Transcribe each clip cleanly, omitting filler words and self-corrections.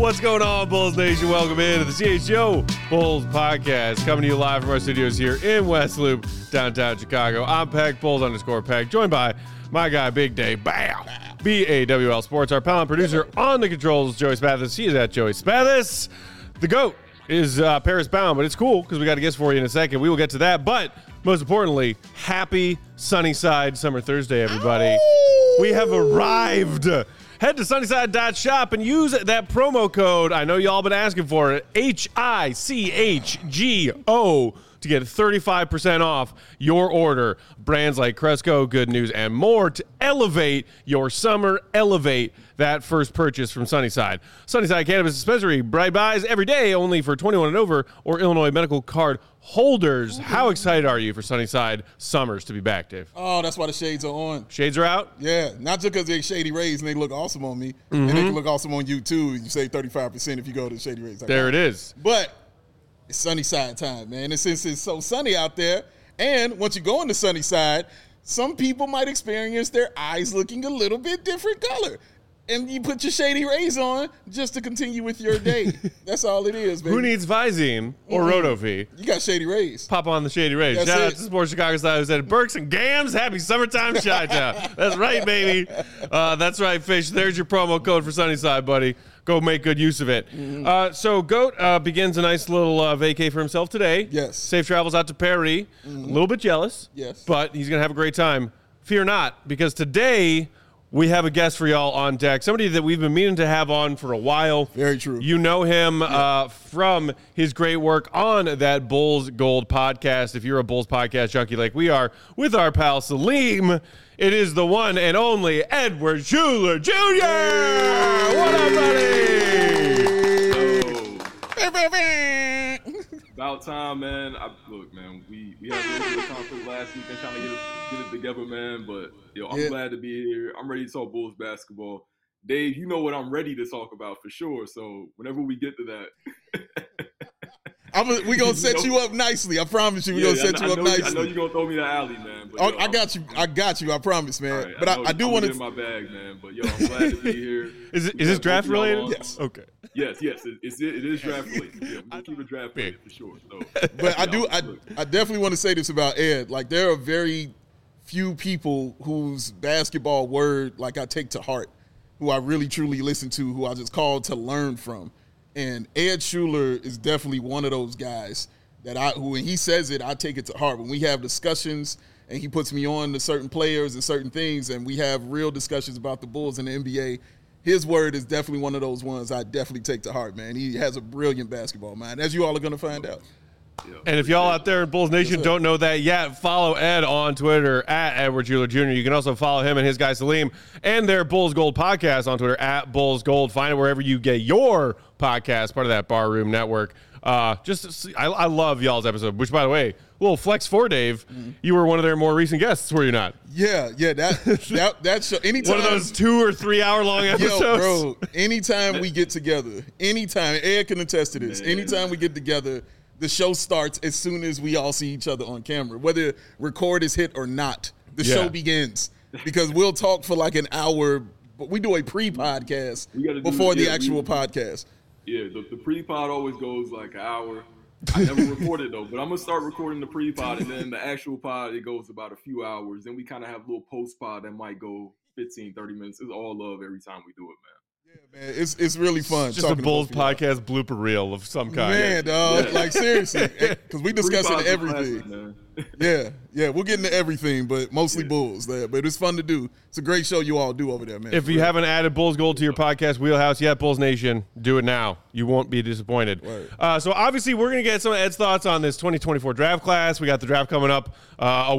What's going on, Bulls Nation? Welcome into the CHGO Bulls Podcast, coming to you live from our studios here in West Loop, downtown Chicago. I'm Peg, Bulls_Peg, joined by my guy, Big Day, BAWL Sports, our pal and producer on the controls, Joey Spathis. He is at Joey Spathis. The GOAT is Paris bound, but it's cool because we got a guest for you in a second. We will get to that, but most importantly, happy Sunnyside Summer Thursday, everybody. Ow! We have arrived. Head to Sunnyside.shop and use that promo code. I know y'all been asking for it. HICHGO to get 35% off your order. Brands like Cresco, Good News, and more to elevate your summer. Elevate that first purchase from Sunnyside. Sunnyside Cannabis Dispensary. Bright buys every day, only for 21 and over or Illinois medical card holders. How excited are you for Sunnyside Summers to be back, Dave? Oh, that's why the shades are on. Shades are out? Yeah, not just because they're Shady Rays and they look awesome on me, and they can look awesome on you too. You save 35% if you go to Shady Rays. There it is. But it's Sunnyside time, man. And since it's so sunny out there, and once you go into Sunnyside, some people might experience their eyes looking a little bit different color. And you put your Shady Rays on just to continue with your day. That's all it is, baby. Who needs Visine or Rotovie? You got Shady Rays. Pop on the Shady Rays. Shout out to Sports Chicago Style who said, Burks and Gams, happy summertime Chi-Town. That's right, baby. That's right, Fish. There's your promo code for Sunnyside, buddy. Go make good use of it. So GOAT begins a nice little vacay for himself today. Yes. Safe travels out to Paris. A little bit jealous. Yes. But he's going to have a great time. Fear not, because today we have a guest for y'all on deck, somebody that we've been meaning to have on for a while. Very true. You know him from his great work on that Bulls Gold podcast. If you're a Bulls podcast junkie like we are, with our pal Salim, it is the one and only Edward Schuler Jr. Hey. What up, buddy? About time, man. Look, man, we had a little bit of conflict last week and trying to get it together, man. But I'm glad to be here. I'm ready to talk Bulls basketball. Dave, you know what I'm ready to talk about for sure. So whenever we get to that, we're going to set you up nicely. I promise you, we're going to set you up nicely. I know you're going to throw me the alley, man. But, I got you. I promise, man. Right, but I do want to. in my bag, man. But, I'm glad to be here. Is this draft related? Yes. Okay. Yes. It is draft related. Yeah, we'll keep it draft related for sure. So, but I definitely want to say this about Ed. Like, there are very few people whose basketball word, like, I take to heart, who I really, truly listen to, who I just call to learn from. And Ed Schuler is definitely one of those guys that who when he says it, I take it to heart. When we have discussions and he puts me on to certain players and certain things and we have real discussions about the Bulls and the NBA, his word is definitely one of those ones I definitely take to heart, man. He has a brilliant basketball mind, as you all are going to find out. And if y'all out there in Bulls Nation don't know that yet, follow Ed on Twitter at Edward Schuler Jr. You can also follow him and his guy Salim and their Bulls Gold podcast on Twitter at Bulls Gold. Find it wherever you get your podcast, part of that Barroom Network. I love y'all's episode, which, by the way, little flex for Dave. You were one of their more recent guests, were you not? Yeah. That show. Anytime, one of those 2 or 3 hour long episodes. Yo, bro, anytime we get together, Ed can attest to this. Anytime we get together, the show starts as soon as we all see each other on camera. Whether record is hit or not, the show begins. Because we'll talk for like an hour, but we do a pre-podcast before the actual podcast. Yeah, the pre-pod always goes like an hour. I never recorded though, but I'm going to start recording the pre-pod, and then the actual pod, it goes about a few hours. Then we kind of have a little post-pod that might go 15, 30 minutes. It's all love every time we do it, man. Yeah, man, it's really fun. Just a Bulls podcast blooper reel of some kind. Man, dog, like seriously, because we discussing everything. Yeah, we'll get into everything, but mostly Bulls. But it's fun to do. It's a great show you all do over there, man. If you haven't added Bulls Gold to your podcast wheelhouse yet, Bulls Nation, do it now. You won't be disappointed. Right. So obviously, we're going to get some of Ed's thoughts on this 2024 draft class. We got the draft coming up a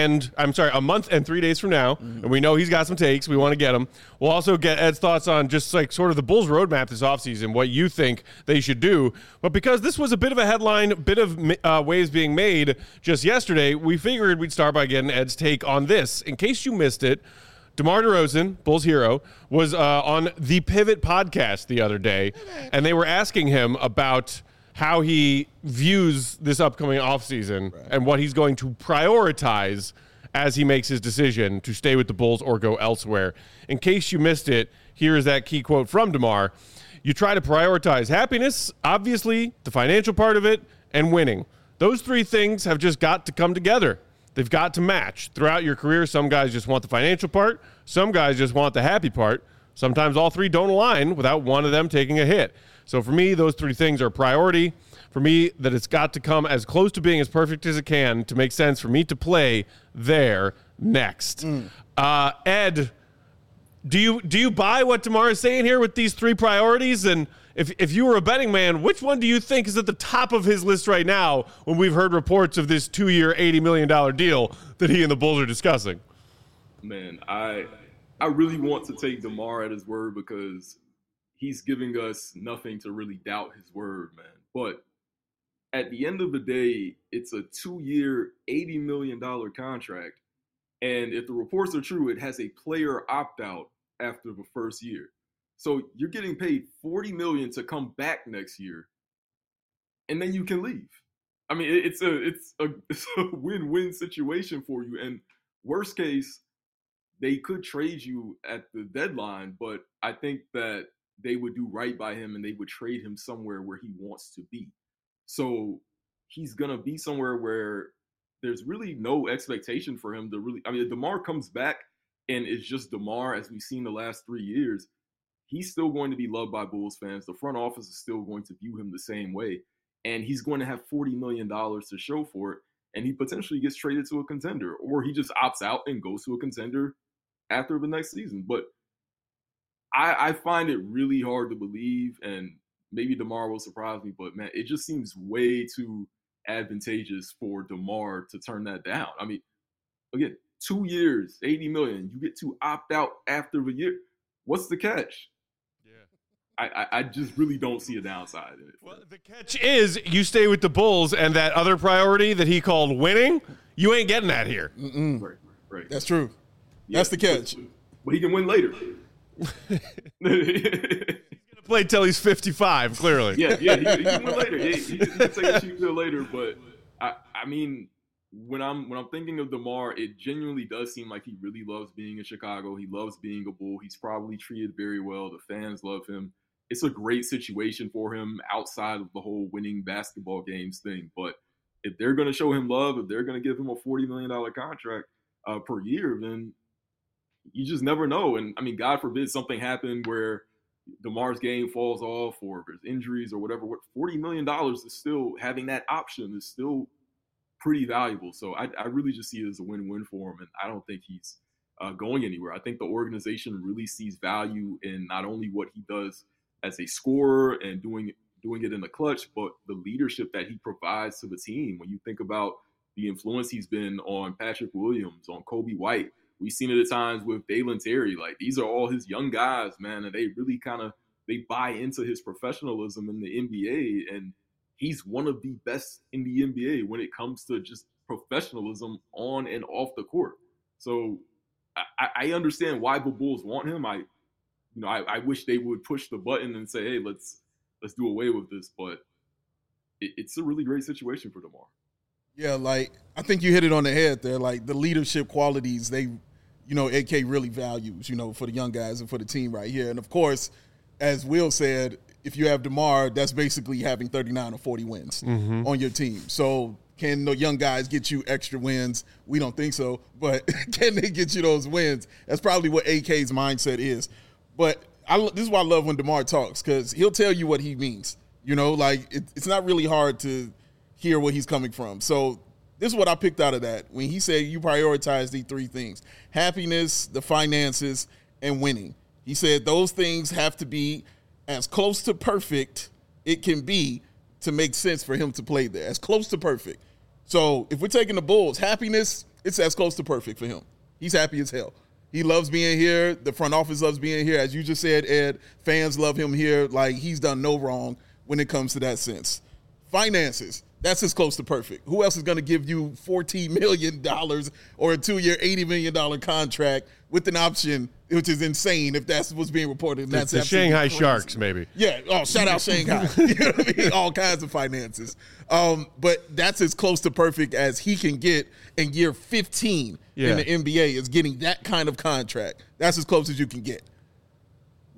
month and 3 days from now, and we know he's got some takes. We want to get them. We'll also get Ed's thoughts on just like sort of the Bulls roadmap this offseason, what you think they should do. But because this was a bit of a headline, bit of waves being made just yesterday, we figured we'd start by getting Ed's take on this. In case you missed it, DeMar DeRozan, Bulls hero, was on the Pivot podcast the other day, and they were asking him about how he views this upcoming offseason and what he's going to prioritize as he makes his decision to stay with the Bulls or go elsewhere. In case you missed it, here is that key quote from DeMar. you try to prioritize happiness, obviously, the financial part of it, and winning. Those three things have just got to come together. They've got to match. Throughout your career, some guys just want the financial part. Some guys just want the happy part. Sometimes all three don't align without one of them taking a hit. So for me, those three things are priority. For me, that it's got to come as close to being as perfect as it can to make sense for me to play there next. Ed, do you buy what DeMar is saying here with these three priorities? And if you were a betting man, which one do you think is at the top of his list right now when we've heard reports of this 2-year, $80 million deal that he and the Bulls are discussing? Man, I really want to take DeMar at his word because he's giving us nothing to really doubt his word, man. But at the end of the day, it's a 2-year, $80 million contract. And if the reports are true, it has a player opt-out after the first year. So you're getting paid $40 million to come back next year, and then you can leave. I mean, it's a win-win situation for you. And worst case, they could trade you at the deadline, but I think that they would do right by him and they would trade him somewhere where he wants to be. So he's going to be somewhere where there's really no expectation for him to really – I mean, if DeMar comes back and it's just DeMar as we've seen the last 3 years, he's still going to be loved by Bulls fans. The front office is still going to view him the same way. And he's going to have $40 million to show for it. And he potentially gets traded to a contender, or he just opts out and goes to a contender after the next season. But I find it really hard to believe, and maybe DeMar will surprise me, but man, it just seems way too advantageous for DeMar to turn that down. I mean, again, 2 years, $80 million, you get to opt out after the year. What's the catch? I just really don't see a downside in it. Well, the catch is you stay with the Bulls, and that other priority that he called winning, you ain't getting that here. Right. That's true. Yeah, that's the catch. But he can win later. He's gonna play till he's 55. Clearly. Yeah. He can win later. He can take a cheap deal later. But I mean, when I'm thinking of DeMar, it genuinely does seem like he really loves being in Chicago. He loves being a Bull. He's probably treated very well. The fans love him. It's a great situation for him outside of the whole winning basketball games thing. But if they're going to show him love, if they're going to give him a $40 million contract per year, then you just never know. And, I mean, God forbid something happened where DeMar's game falls off or there's injuries or whatever. $40 million is still – having that option is still pretty valuable. So I really just see it as a win-win for him, and I don't think he's going anywhere. I think the organization really sees value in not only what he does as a scorer and doing it in the clutch, but the leadership that he provides to the team. When you think about the influence he's been on Patrick Williams, on Kobe White, we've seen it at times with Dalen Terry. Like, these are all his young guys, man, and they really they buy into his professionalism in the NBA, and he's one of the best in the NBA when it comes to just professionalism on and off the court. So I understand why the Bulls want him. I wish they would push the button and say, hey, let's do away with this. But it's a really great situation for DeMar. Yeah, like, I think you hit it on the head there. Like, the leadership qualities AK really values, for the young guys and for the team right here. And, of course, as Will said, if you have DeMar, that's basically having 39 or 40 wins on your team. So can the young guys get you extra wins? We don't think so. But can they get you those wins? That's probably what AK's mindset is. But this is why I love when DeMar talks, because he'll tell you what he means. It's not really hard to hear where he's coming from. So this is what I picked out of that. When he said you prioritize these three things: happiness, the finances, and winning. He said those things have to be as close to perfect it can be to make sense for him to play there. As close to perfect. So if we're taking the Bulls, happiness, it's as close to perfect for him. He's happy as hell. He loves being here. The front office loves being here. As you just said, Ed, fans love him here. Like, he's done no wrong when it comes to that sense. Finances, that's as close to perfect. Who else is going to give you $14 million or a 2-year, $80 million contract with an option, which is insane if that's what's being reported? And that's the Shanghai crazy. Sharks, maybe. Yeah. Oh, shout out Shanghai. You know what I mean? All kinds of finances. But that's as close to perfect as he can get in year 15 in the NBA, is getting that kind of contract. That's as close as you can get.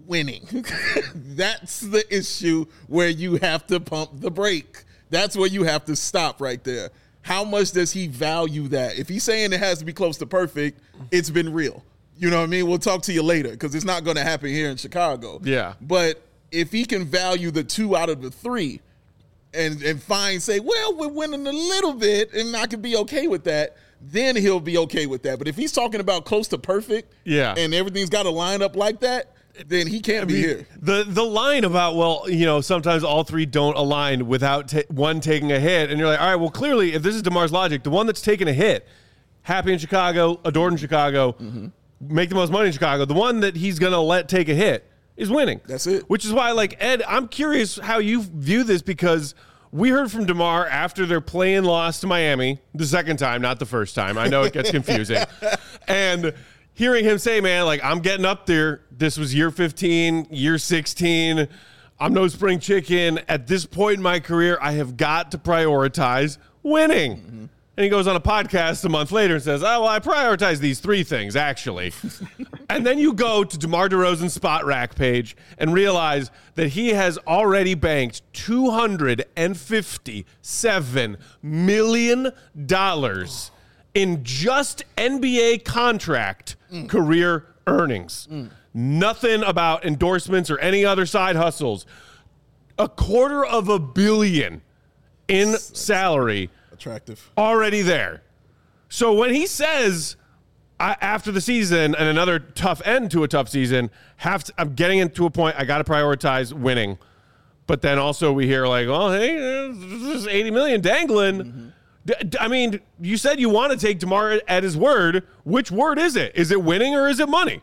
winning. That's the issue where you have to pump the brake. That's where you have to stop right there. How much does he value that? If he's saying it has to be close to perfect, it's been real. You know what I mean? We'll talk to you later because it's not going to happen here in Chicago. Yeah. But if he can value the 2 out of the 3 and say, well, we're winning a little bit and I could be okay with that, then he'll be okay with that. But if he's talking about close to perfect and everything's got to line up like that, then he can't be here. The line about, sometimes all 3 don't align without one taking a hit. And you're like, all right, well, clearly, if this is DeMar's logic, the one that's taking a hit, happy in Chicago, adored in Chicago, make the most money in Chicago, the one that he's going to let take a hit is winning. That's it. Which is why, Ed, I'm curious how you view this because we heard from DeMar after their play-in loss to Miami, the second time, not the first time. I know it gets confusing. And hearing him say, man, I'm getting up there. This was year 15, year 16. I'm no spring chicken. At this point in my career, I have got to prioritize winning. Mm-hmm. And he goes on a podcast a month later and says, oh, well, I prioritize these 3 things, actually. And then you go to DeMar DeRozan's Spot Rack page and realize that he has already banked $257 million in just NBA contract career earnings. Nothing about endorsements or any other side hustles. $250 million in salary. Attractive. Already there. So when he says after the season and another tough end to a tough season, I'm getting into a point I got to prioritize winning. But then also we hear well, hey, there's $80 million dangling. I mean, you said you want to take DeMar at his word. Which word is it? Is it winning or is it money?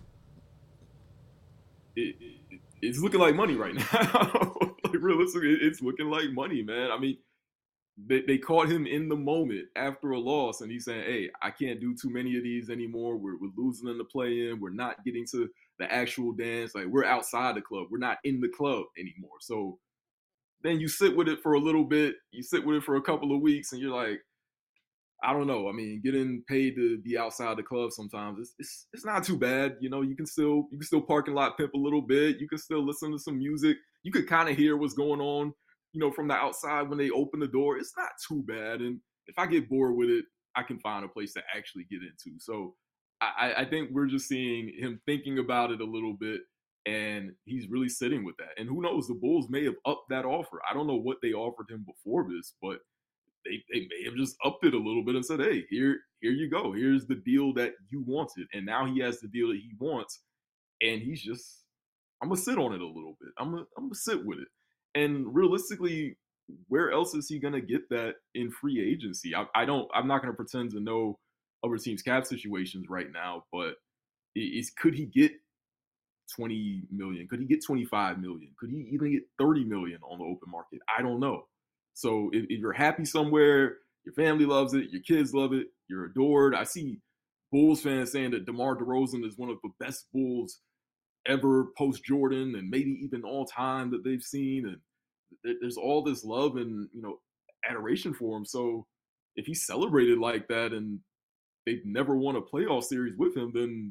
It's looking like money right now. Realistically, it's looking like money, man. I mean, they caught him in the moment after a loss, and he's saying, hey, I can't do too many of these anymore. We're losing in the play-in. We're not getting to the actual dance. We're outside the club. We're not in the club anymore. So then you sit with it for a little bit. You sit with it for a couple of weeks, and you're like, I don't know. I mean, getting paid to be outside the club sometimes it's not too bad. You can still parking lot pimp a little bit. You can still listen to some music. You could kind of hear what's going on, from the outside when they open the door. It's not too bad. And if I get bored with it, I can find a place to actually get into. So I think we're just seeing him thinking about it a little bit, and he's really sitting with that. And who knows, the Bulls may have upped that offer. I don't know what they offered him before this, but they may have just upped it a little bit and said, hey, here you go. Here's the deal that you wanted. And now he has the deal that he wants. And he's just, I'm going to sit on it a little bit. I'm going to sit with it. And realistically, where else is he going to get that in free agency? I'm not going to pretend to know other teams' cap situations right now, but could he get $20 million? Could he get $25 million? Could he even get $30 million on the open market? I don't know. So if you're happy somewhere, your family loves it, your kids love it, you're adored. I see Bulls fans saying that DeMar DeRozan is one of the best Bulls ever post-Jordan and maybe even all time that they've seen. And there's all this love and, adoration for him. So if he's celebrated like that and they've never won a playoff series with him, then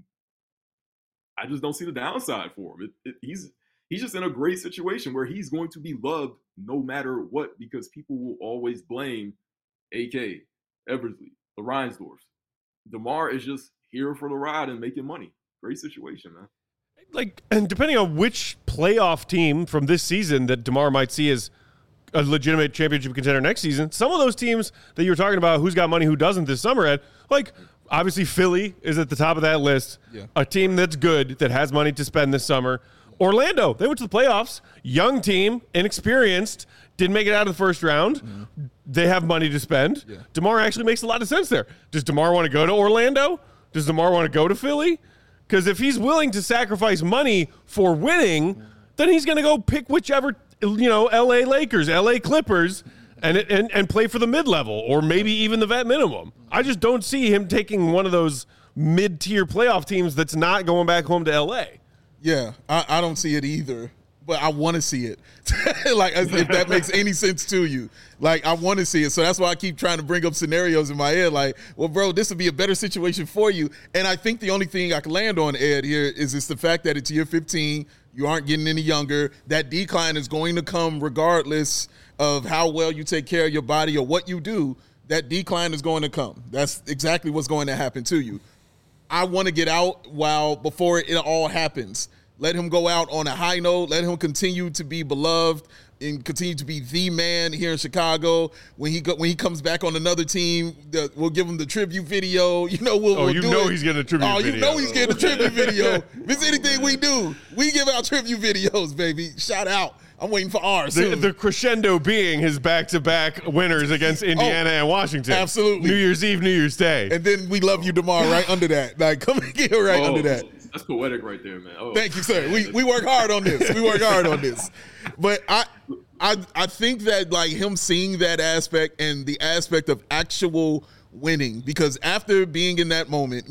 I just don't see the downside for him. He's just in a great situation where he's going to be loved no matter what, because people will always blame AK, Eversley, the Reinsdorf. DeMar is just here for the ride and making money. Great situation, man. And depending on which playoff team from this season that DeMar might see as a legitimate championship contender next season, some of those teams that you were talking about, who's got money, who doesn't this summer, Ed, obviously Philly is at the top of that list. Yeah. A team that's good, that has money to spend this summer. Orlando, they went to the playoffs. Young team, inexperienced, didn't make it out of the first round. Mm-hmm. They have money to spend. Yeah. DeMar actually makes a lot of sense there. Does DeMar want to go to Orlando? Does DeMar want to go to Philly? Because if he's willing to sacrifice money for winning, then he's going to go pick whichever, L.A. Lakers, L.A. Clippers, and play for the mid-level or maybe even the vet minimum. I just don't see him taking one of those mid-tier playoff teams that's not going back home to L.A. Yeah, I don't see it either, but I want to see it. If that makes any sense to you. I want to see it. So that's why I keep trying to bring up scenarios in my head. Well, bro, this would be a better situation for you. And I think the only thing I can land on, Ed, here is the fact that it's year 15. You aren't getting any younger. That decline is going to come regardless of how well you take care of your body or what you do. That decline is going to come. That's exactly what's going to happen to you. I want to get out before it all happens. Let him go out on a high note. Let him continue to be beloved and continue to be the man here in Chicago. When he comes back on another team, we'll give him the tribute video. He's getting a tribute video. You know he's getting a tribute video. If it's anything we do, we give out tribute videos, baby. Shout out. I'm waiting for ours. The crescendo being his back-to-back winners against Indiana and Washington. Absolutely. New Year's Eve, New Year's Day. And then we love you, DeMar, right under that. Like, come and get under that. That's poetic right there, man. Thank you, sir. We work hard on this. But I think that, like, him seeing that aspect and the aspect of actual winning, because after being in the moment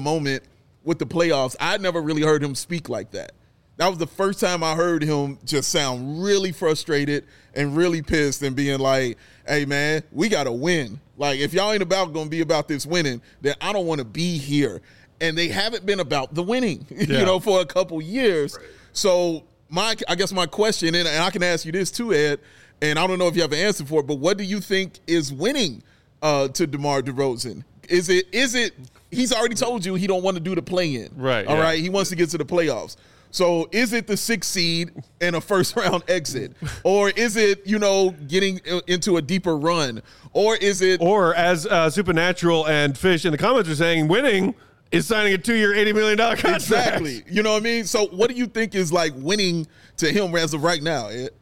with the playoffs, I never really heard him speak like that. That was the first time I heard him just sound really frustrated and really pissed and being like, hey, man, we got to win. Like, if y'all ain't going to be about this winning, then I don't want to be here. And they haven't been about the winning, for a couple years. Right. So I guess my question, and I can ask you this too, Ed, and I don't know if you have an answer for it, but what do you think is winning to DeMar DeRozan? Is it he's already told you he don't want to do the play-in. Right. All right. He wants to get to the playoffs. So is it the 6th seed and a first-round exit? Or is it, getting into a deeper run? Or is it – Or as Supernatural and Fish in the comments are saying, winning is signing a 2-year, $80 million contract. Exactly. You know what I mean? So what do you think is, like, winning to him as of right now, Ed?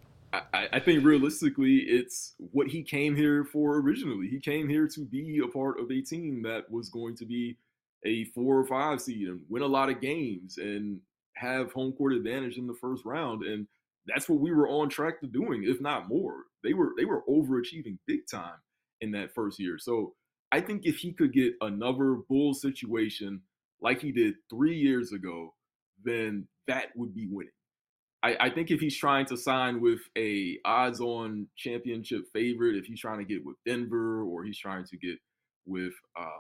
I think realistically it's what he came here for originally. He came here to be a part of a team that was going to be a 4 or 5 seed and win a lot of games and have home court advantage in the first round. And that's what we were on track to doing, if not more. They were overachieving big time in that first year. So I think if he could get another Bulls situation like he did 3 years ago, then that would be winning. I think if he's trying to sign with a odds-on championship favorite, if he's trying to get with Denver or he's trying to get with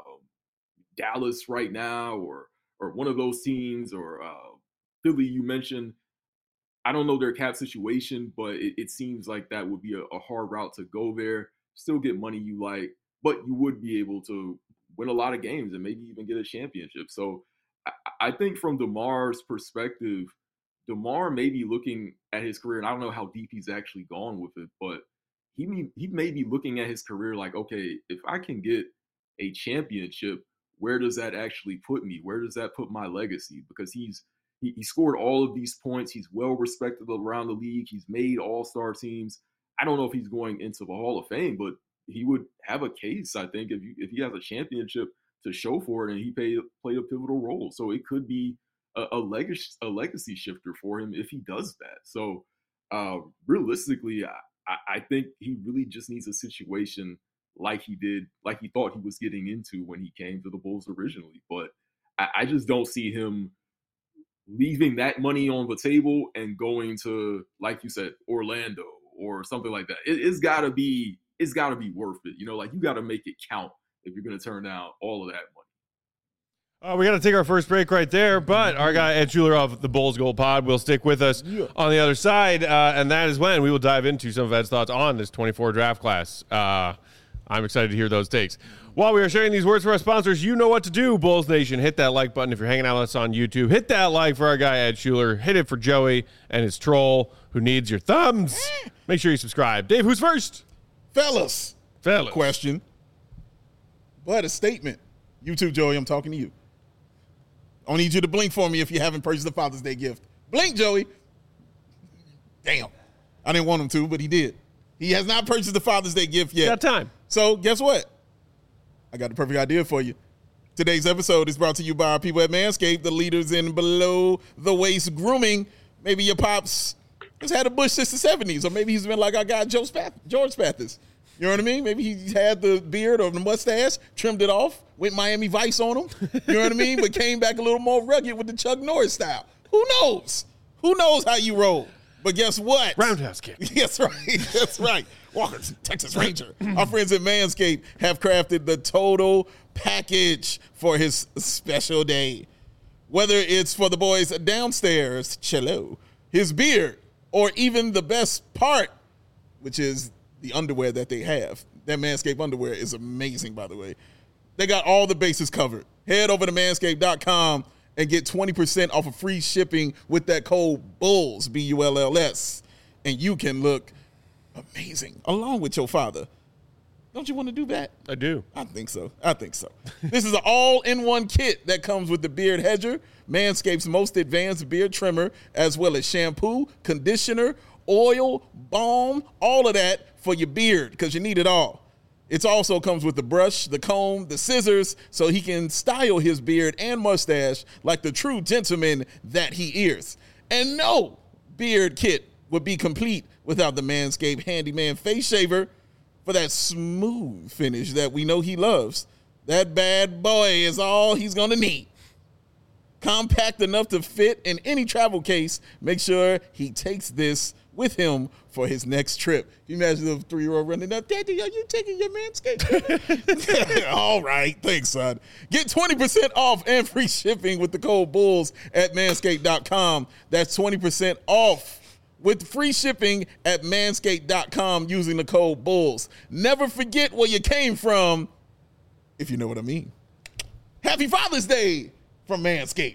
Dallas right now or one of those teams or Philly you mentioned, I don't know their cap situation, but it seems like that would be a hard route to go there. Still get money you like, but you would be able to win a lot of games and maybe even get a championship. So I think from DeMar's perspective, DeMar may be looking at his career, and I don't know how deep he's actually gone with it, but he may be looking at his career like, okay, if I can get a championship, where does that actually put me? Where does that put my legacy? Because he scored all of these points. He's well respected around the league. He's made all-star teams. I don't know if he's going into the Hall of Fame, but he would have a case, I think, if he has a championship to show for it, and he played a pivotal role. So it could be a legacy shifter for him if he does that. So realistically, I think he really just needs a situation like he thought he was getting into when he came to the Bulls originally. But I just don't see him leaving that money on the table and going to, like you said, Orlando or something like that. It's got to be worth it. You got to make it count if you're going to turn down all of that money. We got to take our first break right there, but our guy Ed Schuler of the Bulls Gold Pod will stick with us on the other side, and that is when we will dive into some of Ed's thoughts on this 24 draft class. I'm excited to hear those takes. While we are sharing these words for our sponsors, you know what to do, Bulls Nation. Hit that like button if you're hanging out with us on YouTube. Hit that like for our guy Ed Schuler. Hit it for Joey and his troll who needs your thumbs. Make sure you subscribe. Dave, who's first? Fellas. Question. But a statement. You too, Joey, I'm talking to you. I need you to blink for me if you haven't purchased the Father's Day gift. Blink, Joey. Damn. I didn't want him to, but he did. He has not purchased the Father's Day gift yet. Got time. So guess what? I got the perfect idea for you. Today's episode is brought to you by our people at Manscaped, the leaders in below-the-waist grooming. Maybe your pops has had a bush since the 70s, or maybe he's been like our guy George Spathis. You know what I mean? Maybe he had the beard or the mustache, trimmed it off, went Miami Vice on him. You know what I mean? But came back a little more rugged with the Chuck Norris style. Who knows? Who knows how you roll? But guess what? Roundhouse kick. That's right. That's right. Walker, Texas Ranger. Our friends at Manscaped have crafted the total package for his special day. Whether it's for the boys downstairs, cello, his beard, or even the best part, which is the underwear that they have. That Manscaped underwear is amazing, by the way. They got all the bases covered. Head over to manscaped.com and get 20% off of free shipping with that code BULLS, BULLS, and you can look amazing along with your father. Don't you want to do that? I do. I think so. This is an all-in-one kit that comes with the Beard Hedger, Manscaped's most advanced beard trimmer, as well as shampoo, conditioner, oil, balm, all of that for your beard because you need it all. It also comes with the brush, the comb, the scissors, so he can style his beard and mustache like the true gentleman that he is. And no beard kit would be complete without the Manscaped Handyman Face Shaver for that smooth finish that we know he loves. That bad boy is all he's going to need. Compact enough to fit in any travel case. Make sure he takes this with him for his next trip. Can you imagine the 3-year-old running up, Daddy, are you taking your Manscaped? All right, thanks, son. Get 20% off and free shipping with the code BULLS at manscaped.com. That's 20% off with free shipping at manscaped.com using the code BULLS. Never forget where you came from, if you know what I mean. Happy Father's Day from Manscaped.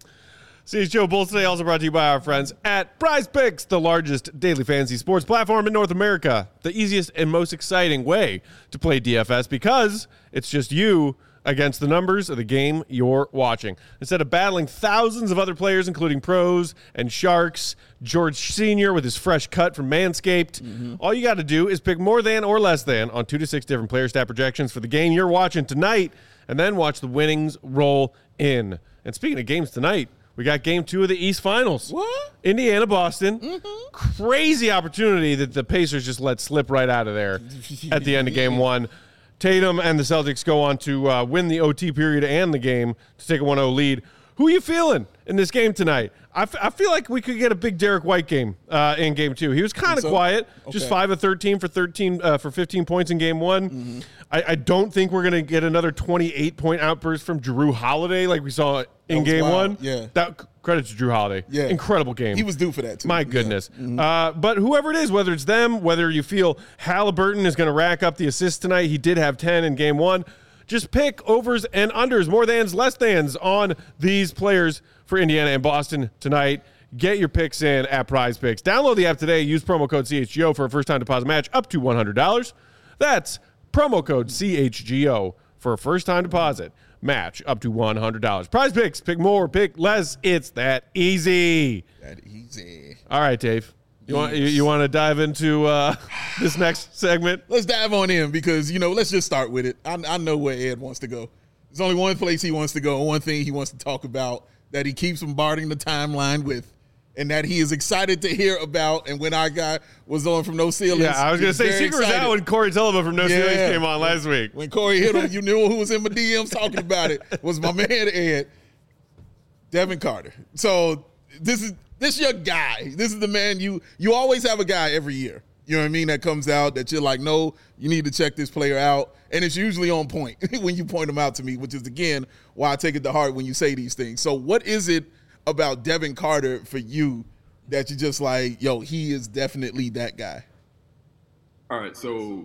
CHGO Bulls today also brought to you by our friends at Prize Picks, the largest daily fantasy sports platform in North America. The easiest and most exciting way to play DFS because it's just you against the numbers of the game you're watching. Instead of battling thousands of other players, including pros and sharks, George Sr. with his fresh cut from Manscaped, all you got to do is pick more than or less than on 2 to 6 different player stat projections for the game you're watching tonight, and then watch the winnings roll in. And speaking of games tonight, we got game 2 of the East Finals. What? Indiana, Boston. Crazy opportunity that the Pacers just let slip right out of there at the end of game 1. Tatum and the Celtics go on to win the OT period and the game to take a 1-0 lead. Who are you feeling in this game tonight? I feel like we could get a big Derek White game in game 2. He was kind of quiet, just 5 of 13 for 15 points in game 1. I don't think we're going to get another 28-point outburst from Jrue Holiday like we saw in game 1. Yeah. Credit to Jrue Holiday. Yeah. Incredible game. He was due for that, too. My goodness. But whoever it is, whether it's them, whether you feel Halliburton is going to rack up the assists tonight, he did have 10 in game 1. Just pick overs and unders, more thans, less thans on these players for Indiana and Boston tonight. Get your picks in at Prize Picks. Download the app today. Use promo code CHGO for a first-time deposit match up to $100. That's promo code CHGO for a first-time deposit match up to $100. Prize Picks. Pick more, pick less. It's that easy. All right, Dave. You want to dive into this next segment? Let's dive on in because, let's just start with it. I know where Ed wants to go. There's only one place he wants to go, one thing he wants to talk about that he keeps bombarding the timeline with, and that he is excited to hear about. And when our guy was on from No Ceilings. Yeah, I was going to say, secret was out when Corey Tulaba from No Ceilings came on last week. When Corey hit him, you knew who was in my DMs talking about it. Was my man Ed, Devin Carter. So this is your guy. This is the man you always have a guy every year. You know what I mean? That comes out that you're like, no, you need to check this player out. And it's usually on point when you point them out to me, which is, again, why I take it to heart when you say these things. So what is it about Devin Carter for you that you're just like, yo, he is definitely that guy? All right, so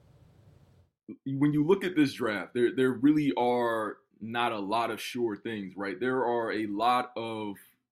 when you look at this draft, there really are not a lot of sure things, right? There are a lot of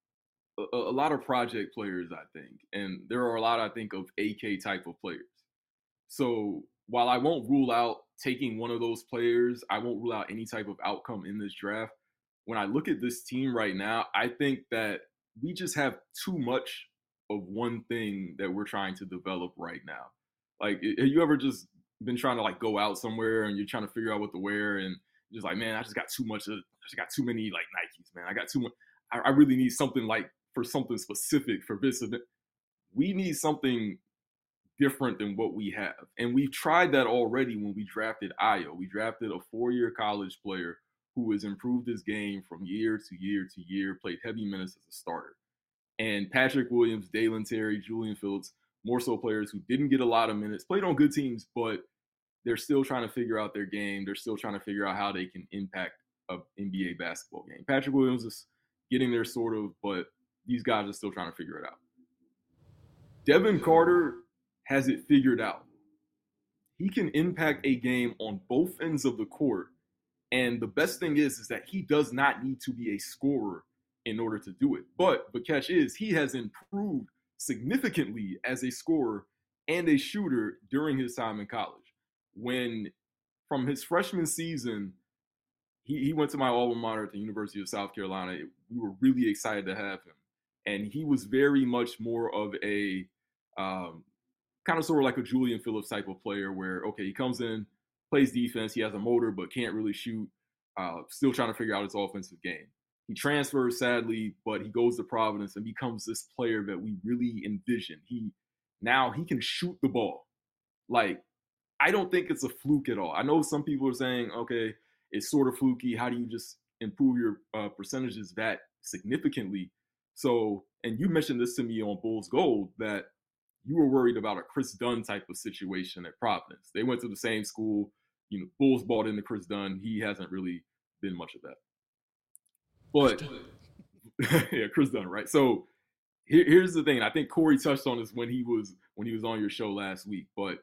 project players, I think, and there are a lot, I think, of AK type of players. So while I won't rule out taking one of those players, I won't rule out any type of outcome in this draft. When I look at this team right now, I think that we just have too much of one thing that we're trying to develop right now. Like, have you ever just been trying to go out somewhere and you're trying to figure out what to wear and just like, man, I just got too many Nikes, man. I got too much. I really need something for something specific for this event. We need something different than what we have. And we've tried that already when we drafted Ayo. We drafted a 4-year college player who has improved his game from year to year to year, played heavy minutes as a starter. And Patrick Williams, Dalen Terry, Julian Phillips, more so players who didn't get a lot of minutes, played on good teams, but they're still trying to figure out their game. They're still trying to figure out how they can impact an NBA basketball game. Patrick Williams is getting there sort of, but these guys are still trying to figure it out. Devin Carter has it figured out. He can impact a game on both ends of the court. And the best thing is that he does not need to be a scorer in order to do it. But the catch is he has improved significantly as a scorer and a shooter during his time in college. When from his freshman season, he went to my alma mater at the University of South Carolina. We were really excited to have him. And he was very much more of a kind of sort of like a Julian Phillips type of player where, okay, he comes in, plays defense, he has a motor but can't really shoot, still trying to figure out his offensive game. He transfers, sadly, but he goes to Providence and becomes this player that we really envision. Now he can shoot the ball. Like, I don't think it's a fluke at all. I know some people are saying, okay, it's sort of fluky. How do you just improve your percentages that significantly? So, and you mentioned this to me on Bulls Gold, that you were worried about a Chris Dunn type of situation at Providence. They went to the same school. You know, Bulls bought into Chris Dunn. He hasn't really been much of that. But yeah, Chris Dunn, right? So here's the thing. I think Corey touched on this when he was on your show last week. But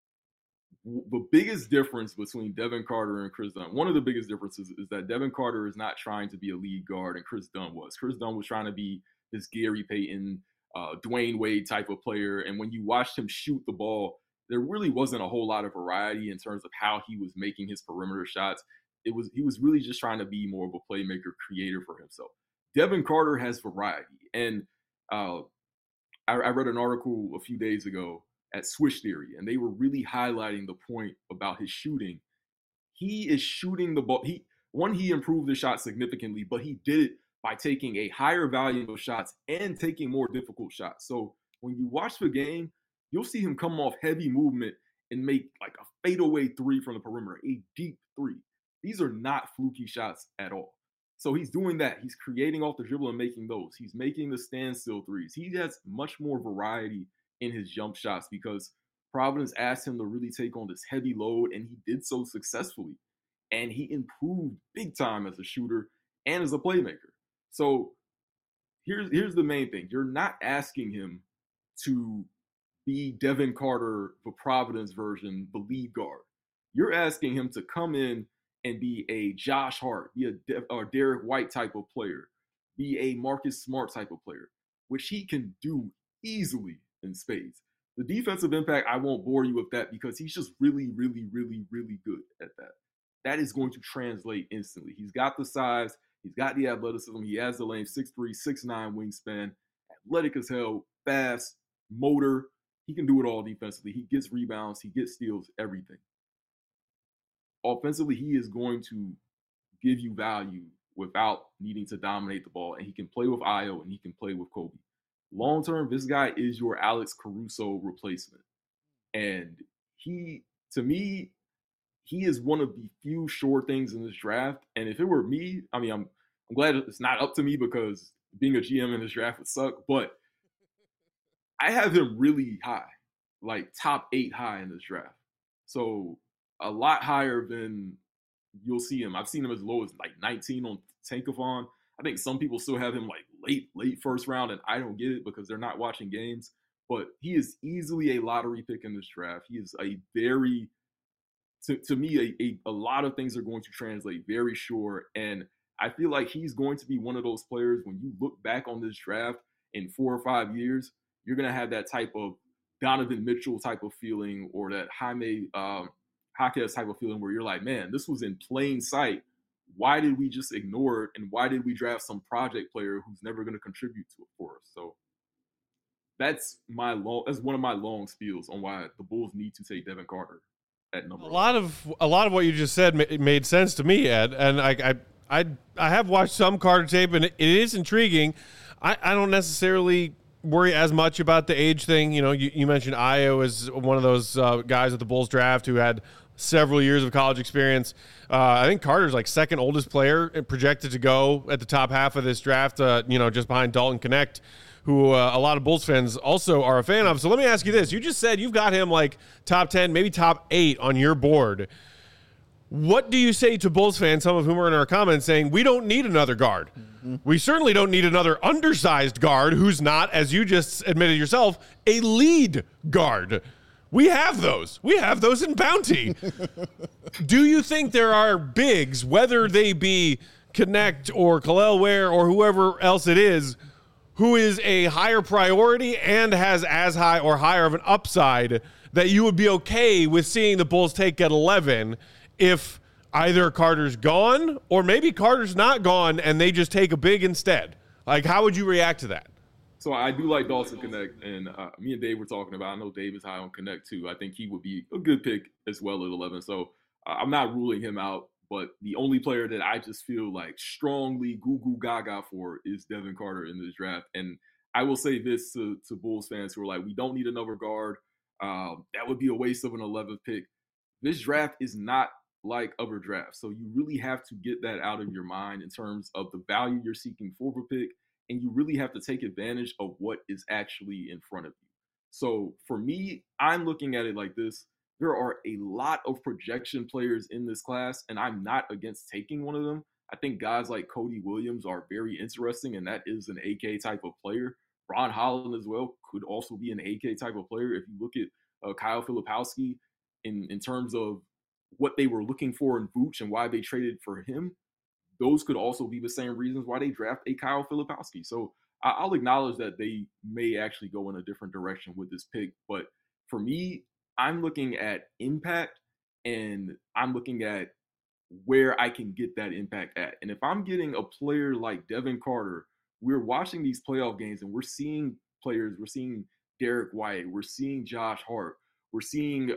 the biggest difference between Devin Carter and Chris Dunn, one of the biggest differences is that Devin Carter is not trying to be a lead guard, and Chris Dunn was. Chris Dunn was trying to be this Gary Payton, Dwayne Wade type of player. And when you watched him shoot the ball, there really wasn't a whole lot of variety in terms of how he was making his perimeter shots. He was really just trying to be more of a playmaker, creator for himself. Devin Carter has variety. And I read an article a few days ago at Swish Theory, and they were really highlighting the point about his shooting. He is shooting the ball. He improved his shot significantly, but he did it by taking a higher volume of shots and taking more difficult shots. So when you watch the game, you'll see him come off heavy movement and make like a fadeaway three from the perimeter, a deep three. These are not fluky shots at all. So he's doing that. He's creating off the dribble and making those. He's making the standstill threes. He has much more variety in his jump shots because Providence asked him to really take on this heavy load, and he did so successfully. And he improved big time as a shooter and as a playmaker. So here's the main thing. You're not asking him to be Devin Carter, the Providence version, the lead guard. You're asking him to come in and be a Josh Hart, be a Derek White type of player, be a Marcus Smart type of player, which he can do easily in spades. The defensive impact, I won't bore you with that because he's just really, really, really, really good at that. That is going to translate instantly. He's got the size. He's got the athleticism. He has the lane, 6'3", 6'9" wingspan, athletic as hell, fast, motor. He can do it all defensively. He gets rebounds. He gets steals, everything. Offensively, he is going to give you value without needing to dominate the ball, and he can play with Ayo and he can play with Kobe. Long term, this guy is your Alex Caruso replacement. And to me, he is one of the few sure things in this draft. And if it were me, I mean, I'm glad it's not up to me because being a GM in this draft would suck, but I have him really high, like top 8 high in this draft. So a lot higher than you'll see him. I've seen him as low as like 19 on Tankathon. I think some people still have him like late first round, and I don't get it because they're not watching games. But he is easily a lottery pick in this draft. He is a very, to me, a lot of things are going to translate very sure. And I feel like he's going to be one of those players when you look back on this draft in 4 or 5 years, you're going to have that type of Donovan Mitchell type of feeling or that Jaime Jaquez type of feeling where you're like, man, this was in plain sight. Why did we just ignore it? And why did we draft some project player who's never going to contribute to it for us? So that's one of my long spiels on why the Bulls need to take Devin Carter at number. A lot of what you just said made sense to me, Ed. And I have watched some Carter tape, and it is intriguing. I don't necessarily worry as much about the age thing. You know, you mentioned Ayo as one of those guys at the Bulls draft who had several years of college experience. I think Carter's like second oldest player projected to go at the top half of this draft, just behind Dalton Knecht, who a lot of Bulls fans also are a fan of. So let me ask you this. You just said you've got him like top 10, maybe top 8 on your board. What do you say to Bulls fans, some of whom are in our comments, saying we don't need another guard? Mm-hmm. We certainly don't need another undersized guard who's not, as you just admitted yourself, a lead guard. We have those. We have those in Bounty. Do you think there are bigs, whether they be Connect or Kel'el Ware or whoever else it is, who is a higher priority and has as high or higher of an upside that you would be okay with seeing the Bulls take at 11 if either Carter's gone or maybe Carter's not gone and they just take a big instead? Like, how would you react to that? So I do like Dawson Connect, and me and Dave were talking about, I know Dave is high on Connect too. I think he would be a good pick as well at 11. So I'm not ruling him out, but the only player that I just feel like strongly goo gaga for is Devin Carter in this draft. And I will say this to Bulls fans who are like, we don't need another guard. That would be a waste of an 11th pick. This draft is not like other drafts. So you really have to get that out of your mind in terms of the value you're seeking for the pick. And you really have to take advantage of what is actually in front of you. So for me, I'm looking at it like this. There are a lot of projection players in this class, and I'm not against taking one of them. I think guys like Cody Williams are very interesting, and that is an AK type of player. Ron Holland as well could also be an AK type of player. If you look at Kyle Filipowski in terms of what they were looking for in Vooch and why they traded for him, those could also be the same reasons why they draft a Kyle Filipowski. So I'll acknowledge that they may actually go in a different direction with this pick. But for me, I'm looking at impact, and I'm looking at where I can get that impact at. And if I'm getting a player like Devin Carter, we're watching these playoff games and we're seeing players, we're seeing Derek White, we're seeing Josh Hart, we're seeing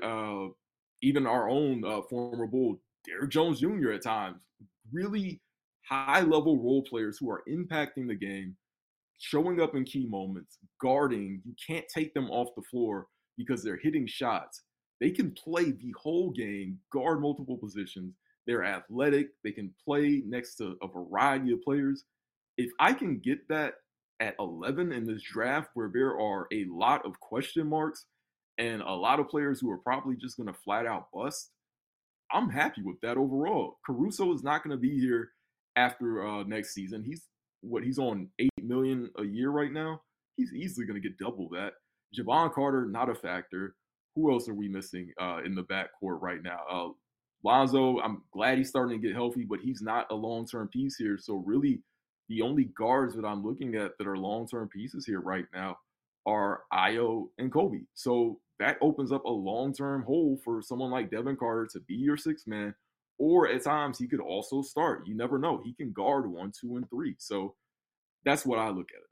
even our own former Bull, Derek Jones Jr. at times, really high-level role players who are impacting the game, showing up in key moments, guarding. You can't take them off the floor because they're hitting shots. They can play the whole game, guard multiple positions. They're athletic. They can play next to a variety of players. If I can get that at 11 in this draft where there are a lot of question marks and a lot of players who are probably just going to flat out bust, I'm happy with that overall. Caruso is not going to be here after next season. He's on $8 million a year right now. He's easily going to get double that. Jevon Carter, not a factor. Who else are we missing in the backcourt right now? Lonzo, I'm glad he's starting to get healthy, but he's not a long-term piece here. So really, the only guards that I'm looking at that are long-term pieces here right now are Ayo and Kobe. So that opens up a long-term hole for someone like Devin Carter to be your sixth man, or at times he could also start. You never know. He can guard 1, 2, and 3. So that's what I look at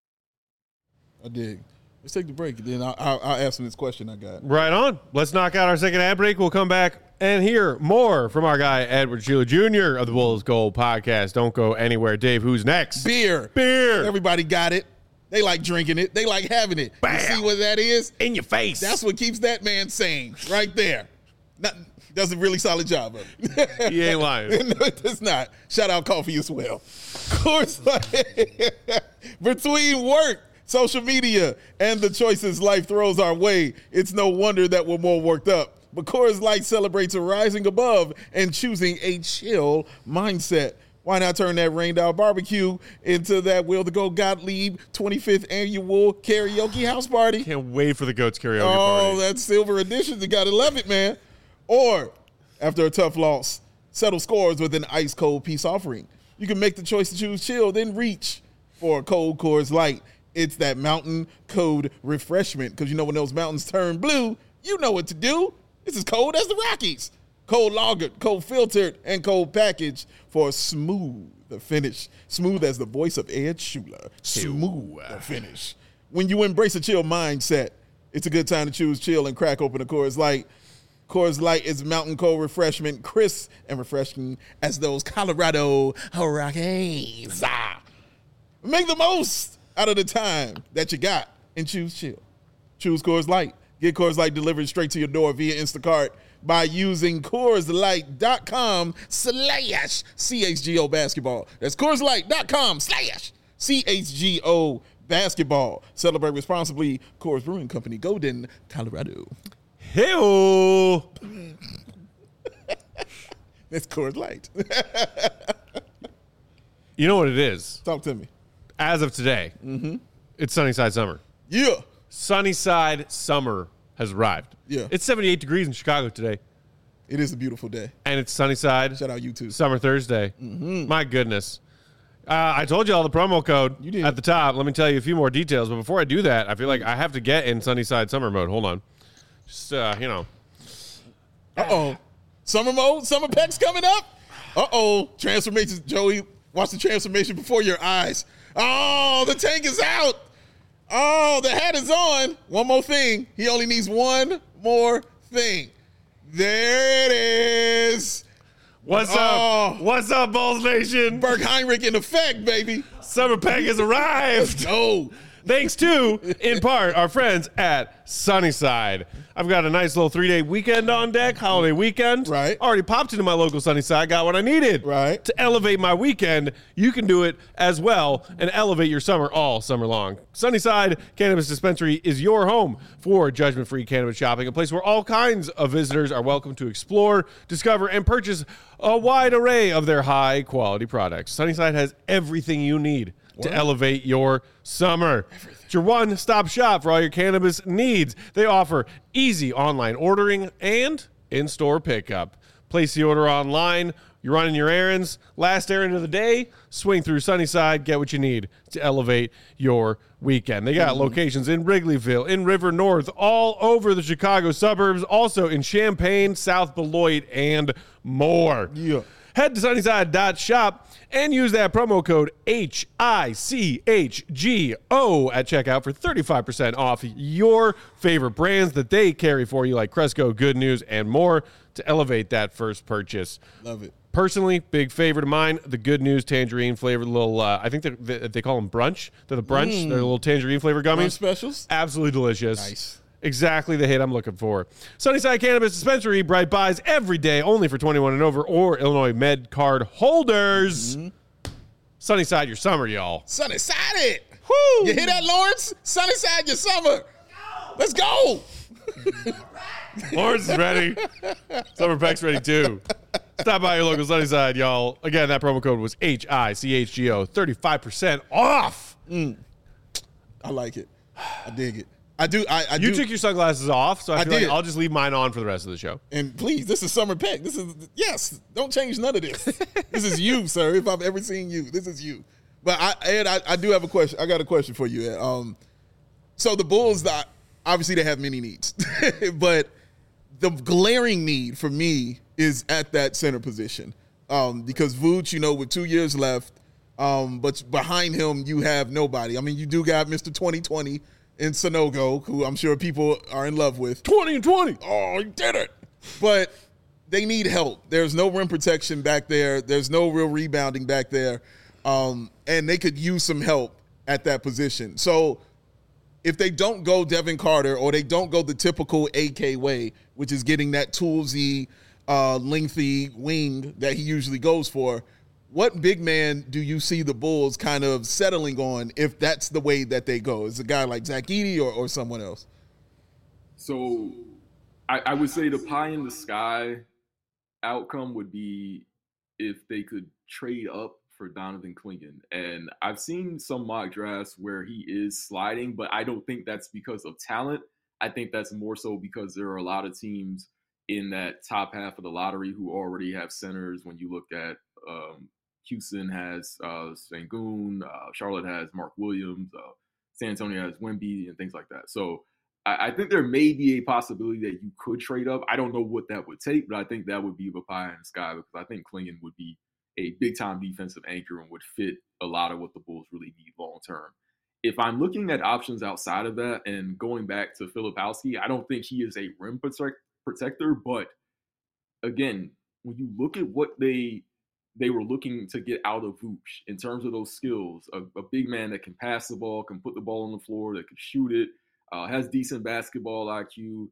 it as. I dig. Let's take the break, and then I'll ask him this question I got. Right on. Let's knock out our second ad break. We'll come back and hear more from our guy, Edward Sheila Jr. of the Bulls Gold Podcast. Don't go anywhere. Dave, who's next? Beer. Everybody got it. They like drinking it. They like having it. Bam. You see what that is? In your face. That's what keeps that man sane right there. Does a really solid job of it. He ain't lying. No, it does not. Shout out coffee as well. Of course, between work, social media, and the choices life throws our way, it's no wonder that we're more worked up. But Coors Light celebrates rising above and choosing a chill mindset. Why not turn that Rain Down Barbecue into that Will the Goat Gottlieb 25th annual karaoke house party? Can't wait for the Goats karaoke party. Oh, that's silver edition. You got to love it, man. Or, after a tough loss, settle scores with an ice-cold peace offering. You can make the choice to choose chill, then reach for a cold Coors Light. It's that mountain cold refreshment, because you know when those mountains turn blue, you know what to do. It's as cold as the Rockies. Cold lagered, cold filtered, and cold packaged for a smooth finish. Smooth as the voice of Ed Schuler. Smooth finish. When you embrace a chill mindset, it's a good time to choose chill and crack open a Coors Light. Coors Light is mountain cold refreshment, crisp and refreshing as those Colorado Rockies. Make the most out of the time that you got and choose chill. Choose Coors Light. Get Coors Light delivered straight to your door via Instacart by using CoorsLight.com/CHGO basketball. That's CoorsLight.com/CHGO basketball. Celebrate responsibly. Coors Brewing Company, Golden, Colorado. Hey-o. It's Coors Light. You know what it is? Talk to me. As of today, it's Sunnyside Summer. Yeah. Sunnyside Summer has arrived. Yeah. It's 78 degrees in Chicago today. It is a beautiful day. And it's Sunnyside. Shout out you too. Summer Thursday. My goodness. I told you all the promo code at the top. Let me tell you a few more details. But before I do that, I feel like I have to get in Sunnyside Summer mode. Hold on. Just, Uh-oh. Summer mode? Summer pecs coming up? Uh-oh. Transformations. Joey, watch the transformation before your eyes. Oh, the tank is out. Oh, the hat is on. One more thing. He only needs one more thing. There it is. What's up? What's up, Bulls Nation? Berg Heinrich in effect, baby. Summer Pack has arrived. Oh. Thanks to, in part, our friends at Sunnyside. I've got a nice little 3-day weekend on deck, holiday weekend. Right. Already popped into my local Sunnyside, got what I needed. Right. To elevate my weekend, you can do it as well and elevate your summer all summer long. Sunnyside Cannabis Dispensary is your home for judgment-free cannabis shopping, a place where all kinds of visitors are welcome to explore, discover, and purchase a wide array of their high-quality products. Sunnyside has everything you need to elevate your summer. It's your one-stop shop for all your cannabis needs. They offer easy online ordering and in-store pickup. Place the order online. You're running your errands. Last errand of the day, swing through Sunnyside, get what you need to elevate your weekend. They got locations in Wrigleyville, in River North, all over the Chicago suburbs, also in Champaign, South Beloit, and more. Yeah. Head to sunnyside.shop and use that promo code HICHGO at checkout for 35% off your favorite brands that they carry for you, like Cresco, Good News, and more, to elevate that first purchase. Love it. Personally, big favorite of mine, the Good News tangerine flavored little, I think they call them brunch. They're the brunch. They're little tangerine flavored gummies. Brunch specials? Absolutely delicious. Nice. Exactly the hit I'm looking for. Sunnyside Cannabis Dispensary, bright buys every day, only for 21 and over or Illinois Med card holders. Sunnyside your summer, y'all. Sunnyside it. Woo! You hear that, Lawrence? Sunnyside your summer. Let's go. Lawrence is ready. Summer Peck's ready too. Stop by your local Sunnyside, y'all. Again, that promo code was HICHGO, 35% off. I like it. I dig it. I do. You took your sunglasses off, so I feel did. like I'll just leave mine on for the rest of the show. And please, this is Summer Peck. This is, yes, don't change none of this. This is you, sir. If I've ever seen you, this is you. But Ed, I do have a question. I got a question for you, Ed. So the Bulls, obviously they have many needs, but the glaring need for me is at that center position. Because Vooch, with 2 years left, but behind him you have nobody. I mean, you do got Mr. 2020 in Sanogo, who I'm sure people are in love with. 20 and 20. Oh, he did it. But they need help. There's no rim protection back there. There's no real rebounding back there. And they could use some help at that position. So if they don't go Devin Carter or they don't go the typical AK way, which is getting that toolsy, lengthy wing that he usually goes for, what big man do you see the Bulls kind of settling on if that's the way that they go? Is it a guy like Zach Edey or someone else? So I would say the pie in the sky outcome would be if they could trade up for Donovan Clingan. And I've seen some mock drafts where he is sliding, but I don't think that's because of talent. I think that's more so because there are a lot of teams in that top half of the lottery who already have centers. When you look at Houston has Sengun, Charlotte has Mark Williams, San Antonio has Wemby, and things like that. So I think there may be a possibility that you could trade up. I don't know what that would take, but I think that would be the pie in the sky because I think Clingan would be a big-time defensive anchor and would fit a lot of what the Bulls really need long-term. If I'm looking at options outside of that and going back to Filipowski, I don't think he is a rim protector, but again, when you look at what they were looking to get out of Vooch in terms of those skills, a big man that can pass the ball, can put the ball on the floor, that can shoot it, has decent basketball IQ.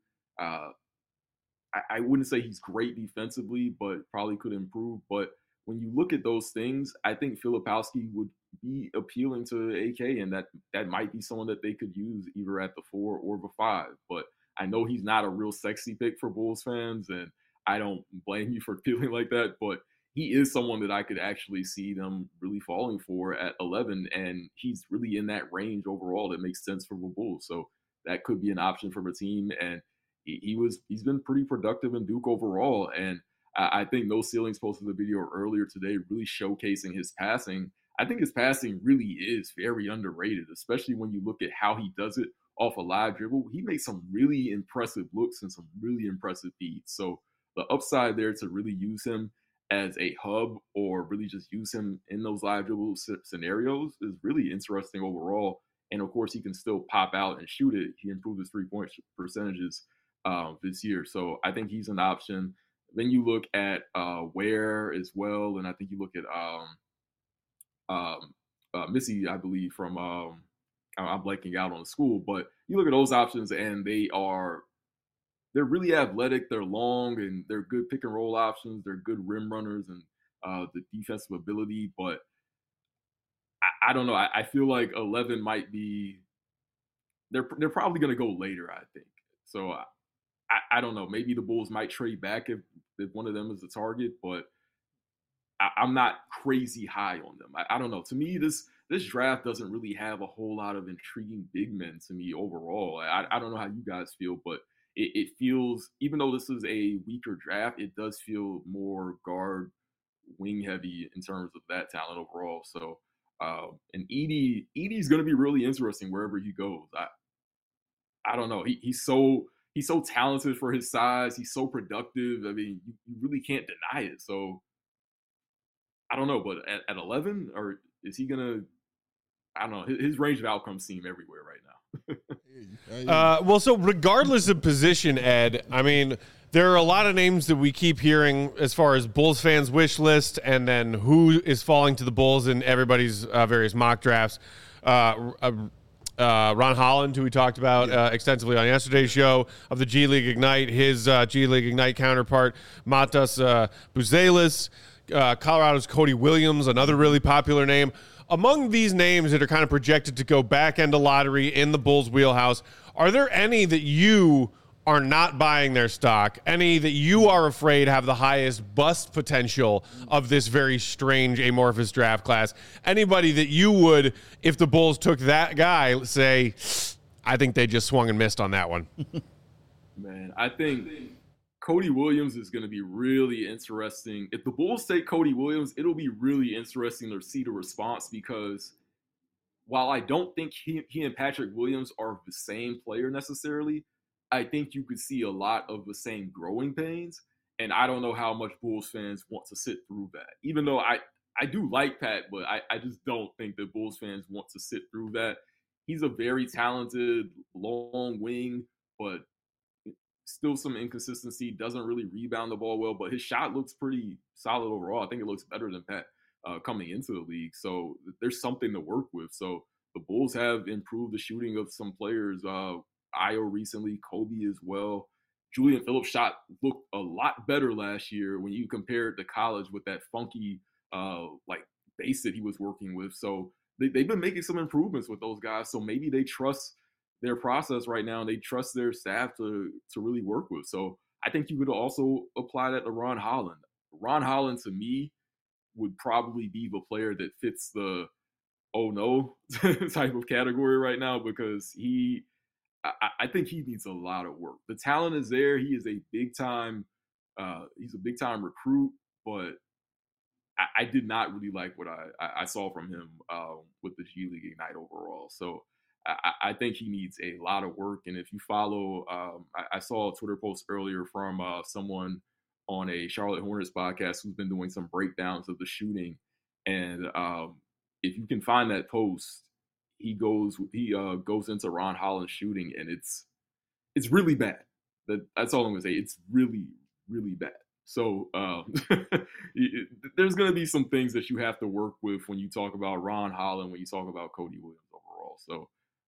I wouldn't say he's great defensively, but probably could improve. But when you look at those things, I think Filipowski would be appealing to AK, and that might be someone that they could use either at the 4 or the 5. But I know he's not a real sexy pick for Bulls fans, and I don't blame you for feeling like that, but he is someone that I could actually see them really falling for at 11, and he's really in that range overall that makes sense for the Bulls. So that could be an option for the team, and he's been pretty productive in Duke overall, and I think No Ceilings posted a video earlier today really showcasing his passing. I think his passing really is very underrated, especially when you look at how he does it off a live dribble. He makes some really impressive looks and some really impressive feeds. So the upside there to really use him as a hub or really just use him in those live dribble scenarios is really interesting overall. And of course, he can still pop out and shoot it. He improved his 3-point percentages this year. So I think he's an option. Then you look at Ware as well. And I think you look at Missy, I believe, from I'm blanking out on the school, but you look at those options and they're really athletic, they're long, and they're good pick and roll options. They're good rim runners and the defensive ability. But I don't know. I feel like 11 might be. They're probably going to go later, I think. So I don't know. Maybe the Bulls might trade back if one of them is the target, but I'm not crazy high on them. I don't know. To me, this draft doesn't really have a whole lot of intriguing big men to me overall. I don't know how you guys feel, but it feels, even though this is a weaker draft, it does feel more guard wing heavy in terms of that talent overall. So, and Edey's going to be really interesting wherever he goes. I don't know. He's so talented for his size. He's so productive. I mean, you really can't deny it. So I don't know, but at 11, or is he gonna? I don't know. His range of outcomes seem everywhere right now. Well, so regardless of position, Ed, I mean, there are a lot of names that we keep hearing as far as Bulls fans' wish list, and then who is falling to the Bulls in everybody's various mock drafts. Ron Holland, who we talked about extensively on yesterday's show, of the G League Ignite, his G League Ignite counterpart, Matas Buzelis, Colorado's Cody Williams, another really popular name. Among these names that are kind of projected to go back end of lottery in the Bulls' wheelhouse, are there any that you are not buying their stock, any that you are afraid have the highest bust potential of this very strange amorphous draft class? Anybody that you would, if the Bulls took that guy, say, I think they just swung and missed on that one? Man, I think Cody Williams is going to be really interesting. If the Bulls take Cody Williams, it'll be really interesting to see the response, because while I don't think he and Patrick Williams are the same player necessarily, I think you could see a lot of the same growing pains. And I don't know how much Bulls fans want to sit through that. Even though I do like Pat, but I just don't think that Bulls fans want to sit through that. He's a very talented long wing, but still some inconsistency, doesn't really rebound the ball well, but his shot looks pretty solid overall. I think it looks better than Pat coming into the league. So there's something to work with. So the Bulls have improved the shooting of some players. Io recently, Kobe as well. Julian Phillips' shot looked a lot better last year when you compare it to college with that funky base that he was working with. So they've been making some improvements with those guys. So maybe they trust their process right now, and they trust their staff to really work with. So I think you could also apply that to Ron Holland. Ron Holland, to me, would probably be the player that fits the oh no type of category right now, because I think he needs a lot of work. The talent is there. He is a big time recruit, but I did not really like what I saw from him with the G League Ignite overall. So I think he needs a lot of work. And if you follow, I saw a Twitter post earlier from someone on a Charlotte Hornets podcast who's been doing some breakdowns of the shooting. And if you can find that post, he goes into Ron Holland's shooting, and it's really bad. That's all I'm gonna say. It's really, really bad. So there's gonna be some things that you have to work with when you talk about Ron Holland, when you talk about Cody Williams overall. So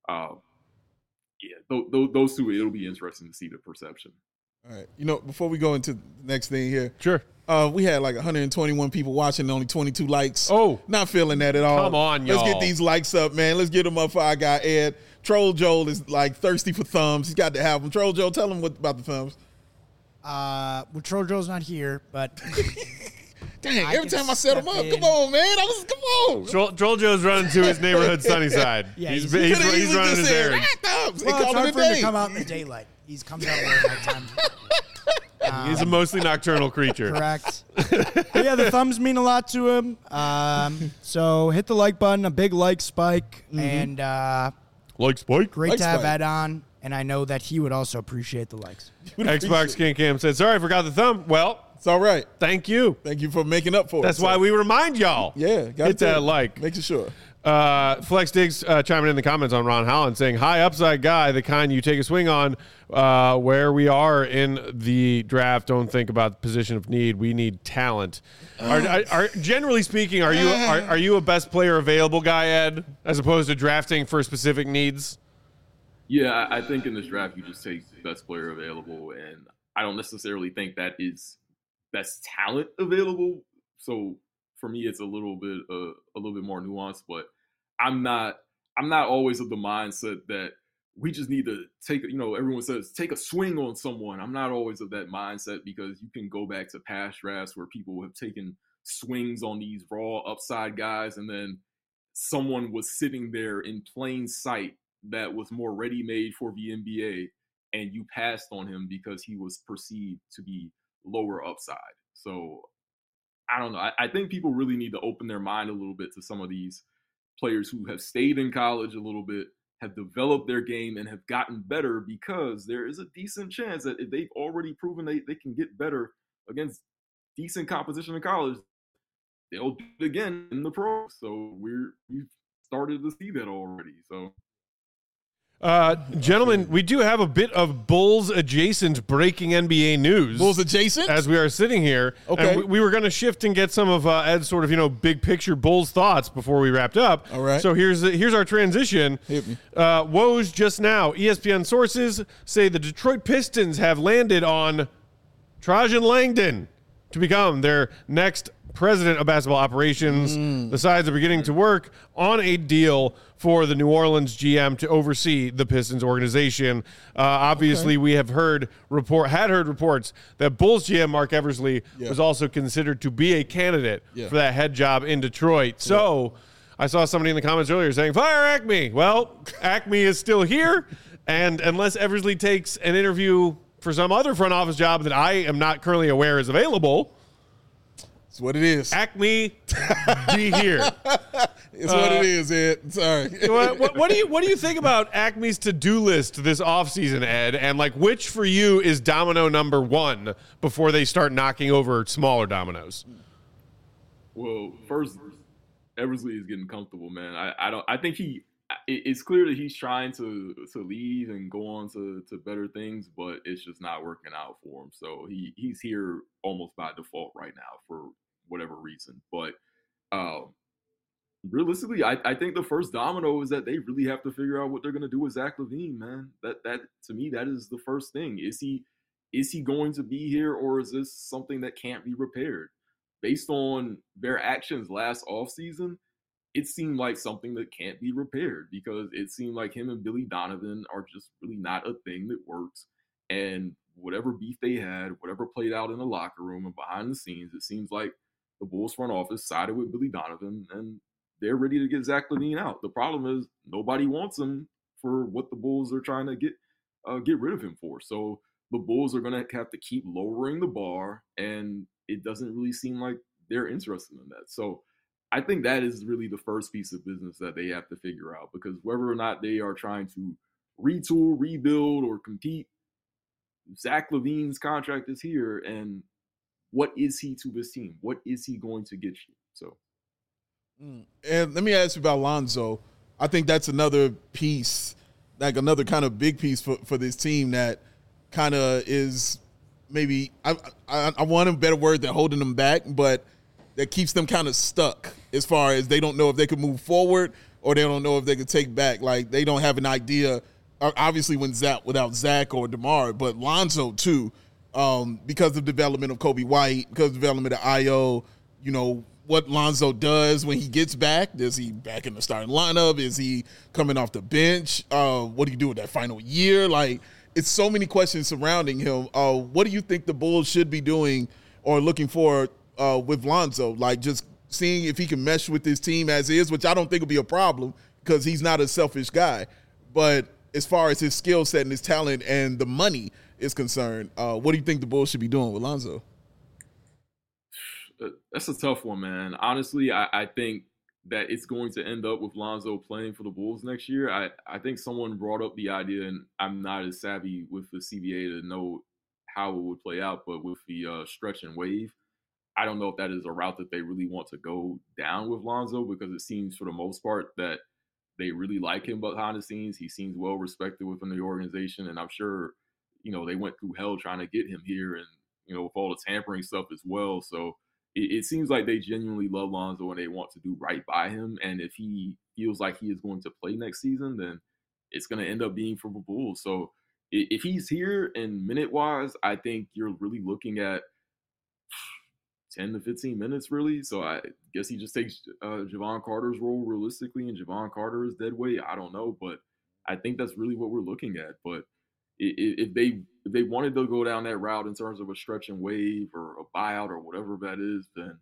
those two, it'll be interesting to see the perception. All right. Before we go into the next thing here. Sure. We had like 121 people watching, only 22 likes. Oh. Not feeling that at all. Come on, y'all. Let's get these likes up, man. Let's get them up for our guy, Ed. Troll Joel is like thirsty for thumbs. He's got to have them. Troll Joel, tell him about the thumbs. Well, Trojo's not here, but dang! Every time I set him up, come on, man! Come on. Trolljo's running to his neighborhood sunny side. Yeah, he's running his errands. Well, it's hard for him to come out in the daylight. He comes out at nighttime. He's a mostly nocturnal creature. Correct. But yeah, the thumbs mean a lot to him. So hit the like button, a big like spike, and like Spike. Great like to have Spike. Ed on. And I know that he would also appreciate the likes. Xbox King Cam said, "Sorry, I forgot the thumb." Well, It's all right. thank you. Thank you for making up for it. That's why we remind y'all. Yeah, hit that like. Make sure. Flex Diggs chiming in the comments on Ron Holland saying, "High upside guy, the kind you take a swing on. Where we are in the draft, don't think about the position of need. We need talent. Are generally speaking, are you a best player available guy, Ed, as opposed to drafting for specific needs?" Yeah, I think in this draft you just take best player available, and I don't necessarily think that is best talent available. So for me, it's a little bit more nuanced. But I'm not always of the mindset that we just need to take. Everyone says take a swing on someone. I'm not always of that mindset, because you can go back to past drafts where people have taken swings on these raw upside guys, and then someone was sitting there in plain sight that was more ready-made for the NBA, and you passed on him because he was perceived to be lower upside. So I don't know. I think people really need to open their mind a little bit to some of these players who have stayed in college a little bit, have developed their game, and have gotten better, because there is a decent chance that if they've already proven they can get better against decent competition in college, they'll do it again in the pros. So we've started to see that already. So. Gentlemen, we do have a bit of Bulls adjacent breaking NBA news. Bulls adjacent? As we are sitting here. Okay. And we were going to shift and get some of Ed's sort of, big picture Bulls thoughts before we wrapped up. All right. So here's our transition. Hit me. Woj just now. ESPN sources say the Detroit Pistons have landed on Trajan Langdon to become their next president of basketball operations. The sides are beginning to work on a deal for the New Orleans GM to oversee the Pistons organization. Obviously, we have heard reports that Bulls GM Mark Eversley was also considered to be a candidate for that head job in Detroit. So I saw somebody in the comments earlier saying, "Fire Acme." Well, Acme is still here, and unless Eversley takes an interview for some other front office job that I am not currently aware is available, it's what it is. Acme, be here. It's what it is, Ed. Sorry. What do you think about Acme's to-do list this offseason, Ed? And which for you is domino number one before they start knocking over smaller dominoes? Well, first, Eversley is getting comfortable, man. I think it's clear that he's trying to leave and go on to better things, but it's just not working out for him. So he's here almost by default right now for whatever reason. But realistically, I think the first domino is that they really have to figure out what they're going to do with Zach LaVine, man. That to me, that is the first thing. Is he going to be here, or is this something that can't be repaired? Based on their actions last offseason, it seemed like something that can't be repaired, because it seemed like him and Billy Donovan are just really not a thing that works. And whatever beef they had, whatever played out in the locker room and behind the scenes, it seems like the Bulls front office sided with Billy Donovan, and they're ready to get Zach LaVine out. The problem is nobody wants him for what the Bulls are trying to get rid of him for. So the Bulls are going to have to keep lowering the bar, and it doesn't really seem like they're interested in that. So I think that is really the first piece of business that they have to figure out, because whether or not they are trying to retool, rebuild, or compete, Zach LaVine's contract is here, and what is he to this team? What is he going to get you? So, and let me ask you about Lonzo. I think that's another piece, like another kind of big piece for this team that kind of is maybe, I want a better word than holding them back, but that keeps them kind of stuck as far as they don't know if they can move forward or they don't know if they can take back. Like, they don't have an idea, obviously without Zach or DeMar, but Lonzo too, because of development of Kobe White, because of development of Ayo, what Lonzo does when he gets back. Is he back in the starting lineup? Is he coming off the bench? What do you do with that final year? Like, it's so many questions surrounding him. What do you think the Bulls should be doing or looking for with Lonzo? Like just seeing if he can mesh with his team as is, which I don't think will be a problem because he's not a selfish guy. But as far as his skill set and his talent and the money is concerned, what do you think the Bulls should be doing with Lonzo? That's a tough one, man. Honestly, I think that it's going to end up with Lonzo playing for the Bulls next year. I think someone brought up the idea, and I'm not as savvy with the CBA to know how it would play out, but with the stretch and waive, I don't know if that is a route that they really want to go down with Lonzo, because it seems for the most part that they really like him behind the scenes. He seems well respected within the organization, and I'm sure, they went through hell trying to get him here, and, with all the tampering stuff as well. So it seems like they genuinely love Lonzo and they want to do right by him. And if he feels like he is going to play next season, then it's going to end up being for the Bulls. So if he's here and minute-wise, I think you're really looking at 10 to 15 minutes, really. So I guess he just takes Javon Carter's role realistically, and Javon Carter is dead weight. I don't know, but I think that's really what we're looking at. But if they wanted to go down that route in terms of a stretch and wave or a buyout or whatever that is, then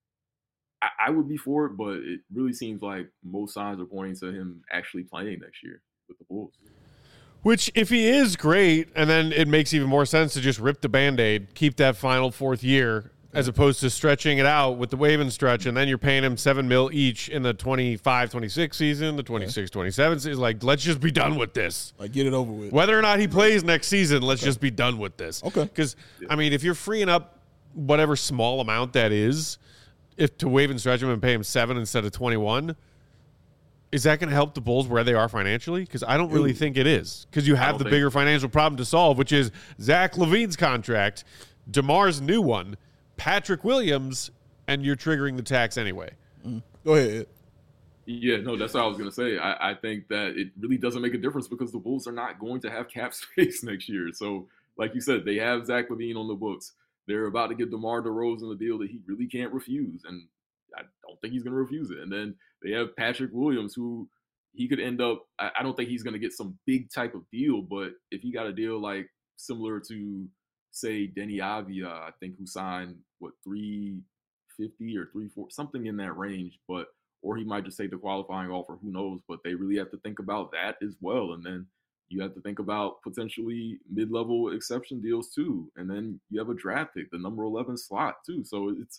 I would be for it. But it really seems like most signs are pointing to him actually playing next year with the Bulls. Which, if he is great, and then it makes even more sense to just rip the Band-Aid, keep that final fourth year, as opposed to stretching it out with the wave and stretch, and then you're paying him $7 million each in the 25-26 season, the 26-27 season. Like, let's just be done with this. Like, get it over with. Whether or not he plays next season, let's just be done with this. Okay. Because, if you're freeing up whatever small amount that is, if to wave and stretch him and pay him 7 instead of 21, is that going to help the Bulls where they are financially? Because I don't really think it is. Because you have the bigger financial problem to solve, which is Zach LaVine's contract, DeMar's new one, Patrick Williams, and you're triggering the tax anyway. Go ahead. Yeah, no, that's what I was going to say. I think that it really doesn't make a difference because the Bulls are not going to have cap space next year. So, like you said, they have Zach LaVine on the books. They're about to give DeMar DeRozan a deal that he really can't refuse, and I don't think he's going to refuse it. And then they have Patrick Williams, who he could end up – I don't think he's going to get some big type of deal, but if he got a deal like similar to – say Denny Avia, I think, who signed $350 or $340, something in that range, or he might just take the qualifying offer, who knows? But they really have to think about that as well. And then you have to think about potentially mid-level exception deals too. And then you have a draft pick, the number 11 slot too. So it's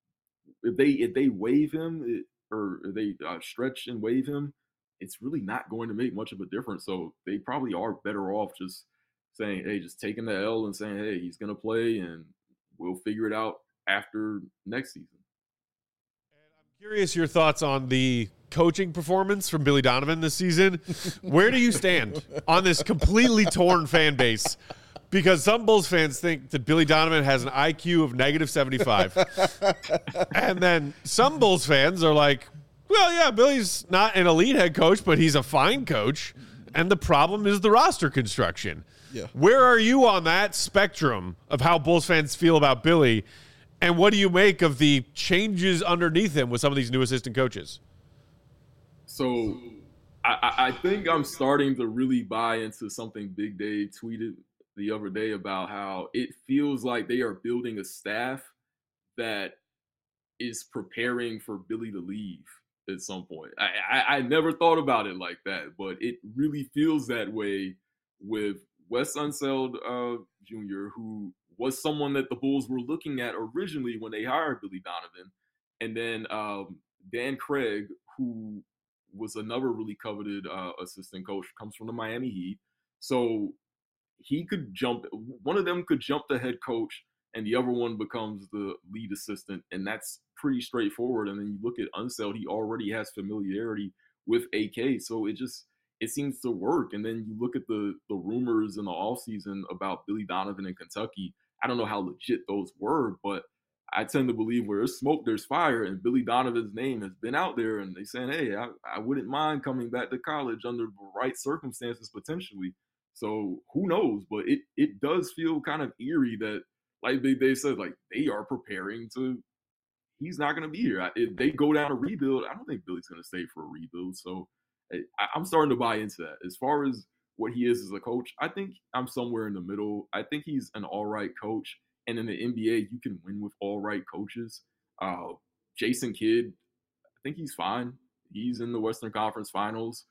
if they waive him or they stretch and waive him, it's really not going to make much of a difference. So they probably are better off just saying, hey, just taking the L and saying, hey, he's going to play and we'll figure it out after next season. And I'm curious your thoughts on the coaching performance from Billy Donovan this season. Where do you stand on this completely torn fan base? Because some Bulls fans think that Billy Donovan has an IQ of -75. And then some Bulls fans are like, well, yeah, Billy's not an elite head coach, but he's a fine coach. And the problem is the roster construction. Yeah. Where are you on that spectrum of how Bulls fans feel about Billy? And what do you make of the changes underneath him with some of these new assistant coaches? So I think I'm starting to really buy into something Big Dave tweeted the other day about how it feels like they are building a staff that is preparing for Billy to leave at some point. I never thought about it like that, but it really feels that way with Wes Unseld Jr., who was someone that the Bulls were looking at originally when they hired Billy Donovan. And then Dan Craig, who was another really coveted assistant coach, comes from the Miami Heat. So he could jump, one of them could jump the head coach and the other one becomes the lead assistant. And that's pretty straightforward. And then you look at Unseld, he already has familiarity with AK. So it seems to work. And then you look at the rumors in the offseason about Billy Donovan in Kentucky. I don't know how legit those were, but I tend to believe where there's smoke, there's fire. And Billy Donovan's name has been out there. And they saying, hey, I wouldn't mind coming back to college under the right circumstances potentially. So who knows? But it does feel kind of eerie that, like they said, like they are preparing to – he's not going to be here. If they go down a rebuild, I don't think Billy's going to stay for a rebuild. So I'm starting to buy into that. As far as what he is as a coach, I think I'm somewhere in the middle. I think he's an all right coach. And in the NBA, you can win with all right coaches. Jason Kidd, I think he's fine. He's in the Western Conference Finals.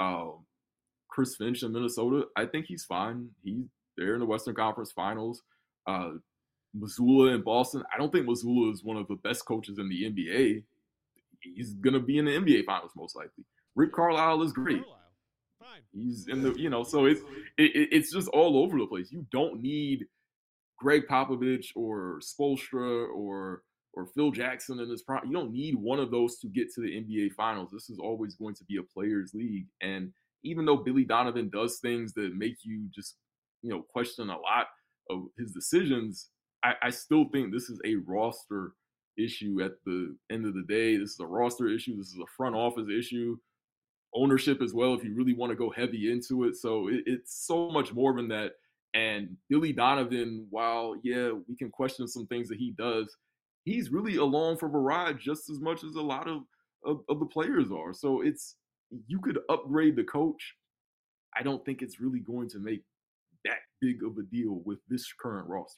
Chris Finch in Minnesota, I think he's fine. They're in the Western Conference Finals. Mazzulla in Boston, I don't think Mazzulla is one of the best coaches in the NBA. He's going to be in the NBA Finals most likely. Rick Carlisle is great. Fine. He's in the, so it's just all over the place. You don't need Greg Popovich or Spoelstra or Phil Jackson in this prime. You don't need one of those to get to the NBA Finals. This is always going to be a players' league. And even though Billy Donovan does things that make you just, question a lot of his decisions, I still think this is a roster issue at the end of the day. This is a roster issue. This is a front office issue. Ownership as well, if you really want to go heavy into it. So it's so much more than that. And Billy Donovan, while, we can question some things that he does, he's really along for the ride just as much as a lot of the players are. So you could upgrade the coach. I don't think it's really going to make that big of a deal with this current roster.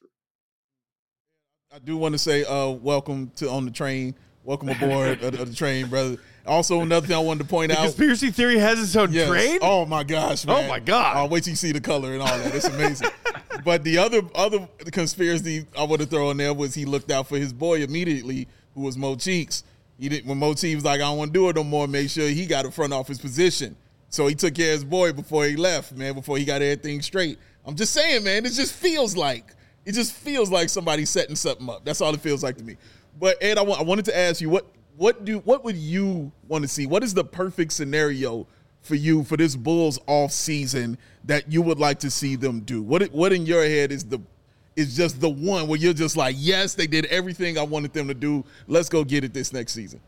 I do want to say welcome to On the Train. Welcome aboard of the train, brother. Also, another thing I wanted to point out. Conspiracy theory has its own train? Oh, my gosh, man. Oh, my God. I'll wait till you see the color and all that. It's amazing. But the other conspiracy I want to throw in there was he looked out for his boy immediately, who was Mo Cheeks. When Mo Cheeks was like, I don't want to do it no more, make sure he got a front office position. So he took care of his boy before he left, man, before he got everything straight. I'm just saying, man, it just feels like somebody's setting something up. That's all it feels like to me. But Ed, I wanted to ask you, what would you want to see? What is the perfect scenario for you for this Bulls off season that you would like to see them do? What in your head is just the one where you're just like, yes, they did everything I wanted them to do. Let's go get it this next season.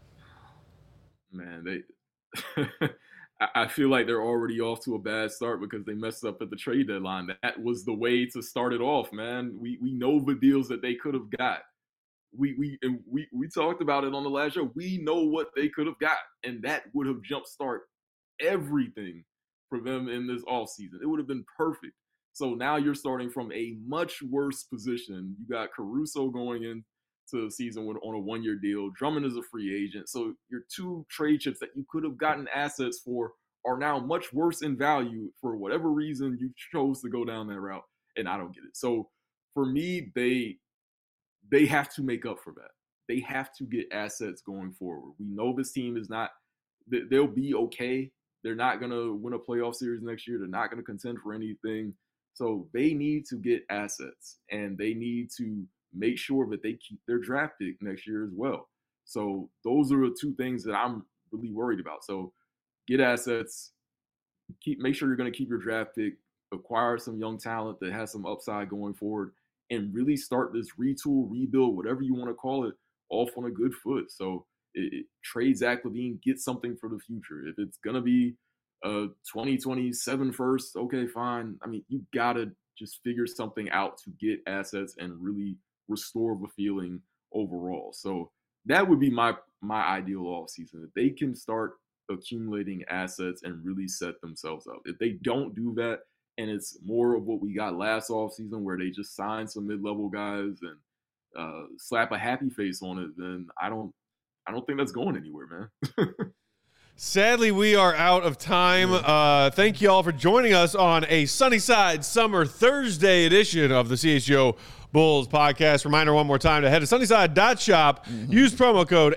Man, I feel like they're already off to a bad start because they messed up at the trade deadline. That was the way to start it off, man. We know the deals that they could have got. We talked about it on the last show. We know what they could have got, and that would have jumpstart everything for them in this offseason. It would have been perfect. So now you're starting from a much worse position. You got Caruso going into the season on a one-year deal. Drummond is a free agent. So your two trade chips that you could have gotten assets for are now much worse in value for whatever reason you chose to go down that route, and I don't get it. So for me, they have to make up for that. They have to get assets going forward. We know this team is not – they'll be okay. They're not going to win a playoff series next year. They're not going to contend for anything. So they need to get assets, and they need to make sure that they keep their draft pick next year as well. So those are the two things that I'm really worried about. So get assets, make sure you're going to keep your draft pick, acquire some young talent that has some upside going forward, and really start this retool, rebuild, whatever you want to call it, off on a good foot. So trade Zach LaVine, get something for the future. If it's going to be 2027 first, okay, fine. I mean, you got to just figure something out to get assets and really restore the feeling overall. So that would be my ideal offseason. If they can start accumulating assets and really set themselves up. If they don't do that, and it's more of what we got last offseason where they just signed some mid-level guys and slap a happy face on it, then I don't think that's going anywhere, man. Sadly, we are out of time. Thank you all for joining us on a Sunnyside Summer Thursday edition of the CHGO Bulls podcast. Reminder one more time to head to sunnyside.shop. Use promo code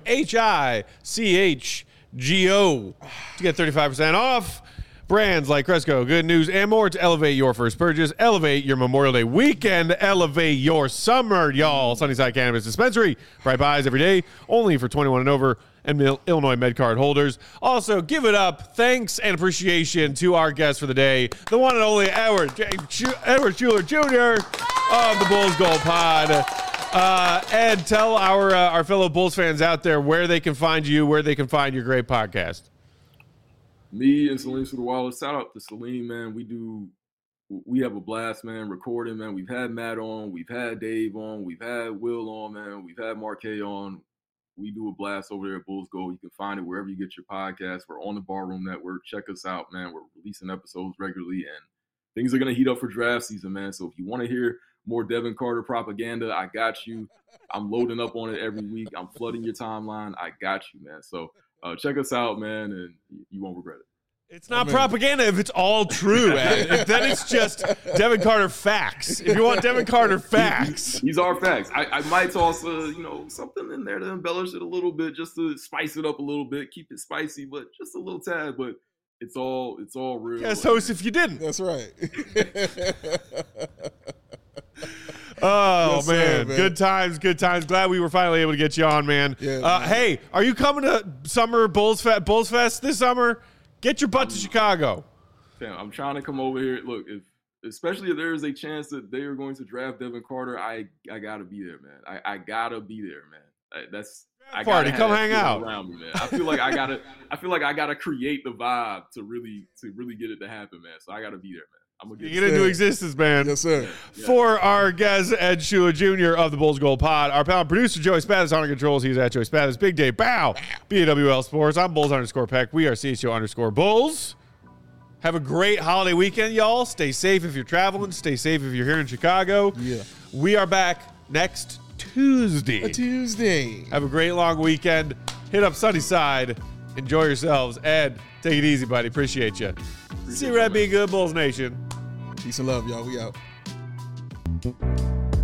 HICHGO to get 35% off. Brands like Cresco, Good News, and more to elevate your first purchase, elevate your Memorial Day weekend, elevate your summer, y'all. Sunnyside Cannabis Dispensary, bright buys every day, only for 21 and over, and Illinois MedCard holders. Also, give it up, thanks and appreciation to our guest for the day, the one and only Edward Schuler Jr. of the Bulls Gold Pod. Ed, tell our fellow Bulls fans out there where they can find you, where they can find your great podcast. Me and Salim Sudawala, shout out to Salim, man. We have a blast, man, recording, man. We've had Matt on, we've had Dave on, we've had Will on, man. We've had Marquet on. We do a blast over there at Bulls Gold. You can find it wherever you get your podcasts. We're on the Barroom Network. Check us out, man. We're releasing episodes regularly, and things are going to heat up for draft season, man. So if you want to hear more Devin Carter propaganda, I got you. I'm loading up on it every week. I'm flooding your timeline. I got you, man. So check us out, man, and you won't regret it. It's not propaganda if it's all true. Then it's just Devin Carter facts. If you want Devin Carter facts. These are facts. I might toss something in there to embellish it a little bit, just to spice it up a little bit, keep it spicy, but just a little tad. But it's all real. Yes, host, if you didn't. That's right. Oh, yes, man. Good times. Glad we were finally able to get you on, man. Yeah, hey, are you coming to Summer Bulls Fest this summer? Get your butt to Chicago. Fam, I'm trying to come over here. Look, especially if there is a chance that they are going to draft Devin Carter, I gotta be there, man. I gotta be there, man. I party. Come hang out around me, man. I feel like I gotta create the vibe to really get it to happen, man. So I gotta be there, man. I'm gonna get into existence, man. Yes, sir. Yeah. For our guest, Ed Shula Jr. of the Bulls Gold Pod, our pal producer, Joey Spathis, on controls. He's at Joey Spathis. Big Day Bow, BAWL Sports. I'm Bulls_Peck. We are CHO_Bulls. Have a great holiday weekend, y'all. Stay safe if you're traveling. Stay safe if you're here in Chicago. Yeah. We are back next Tuesday. A Tuesday. Have a great long weekend. Hit up Sunnyside. Enjoy yourselves. Ed, take it easy, buddy. Appreciate you. See you, Red. Be good, Bulls Nation. Peace and love, y'all. We out.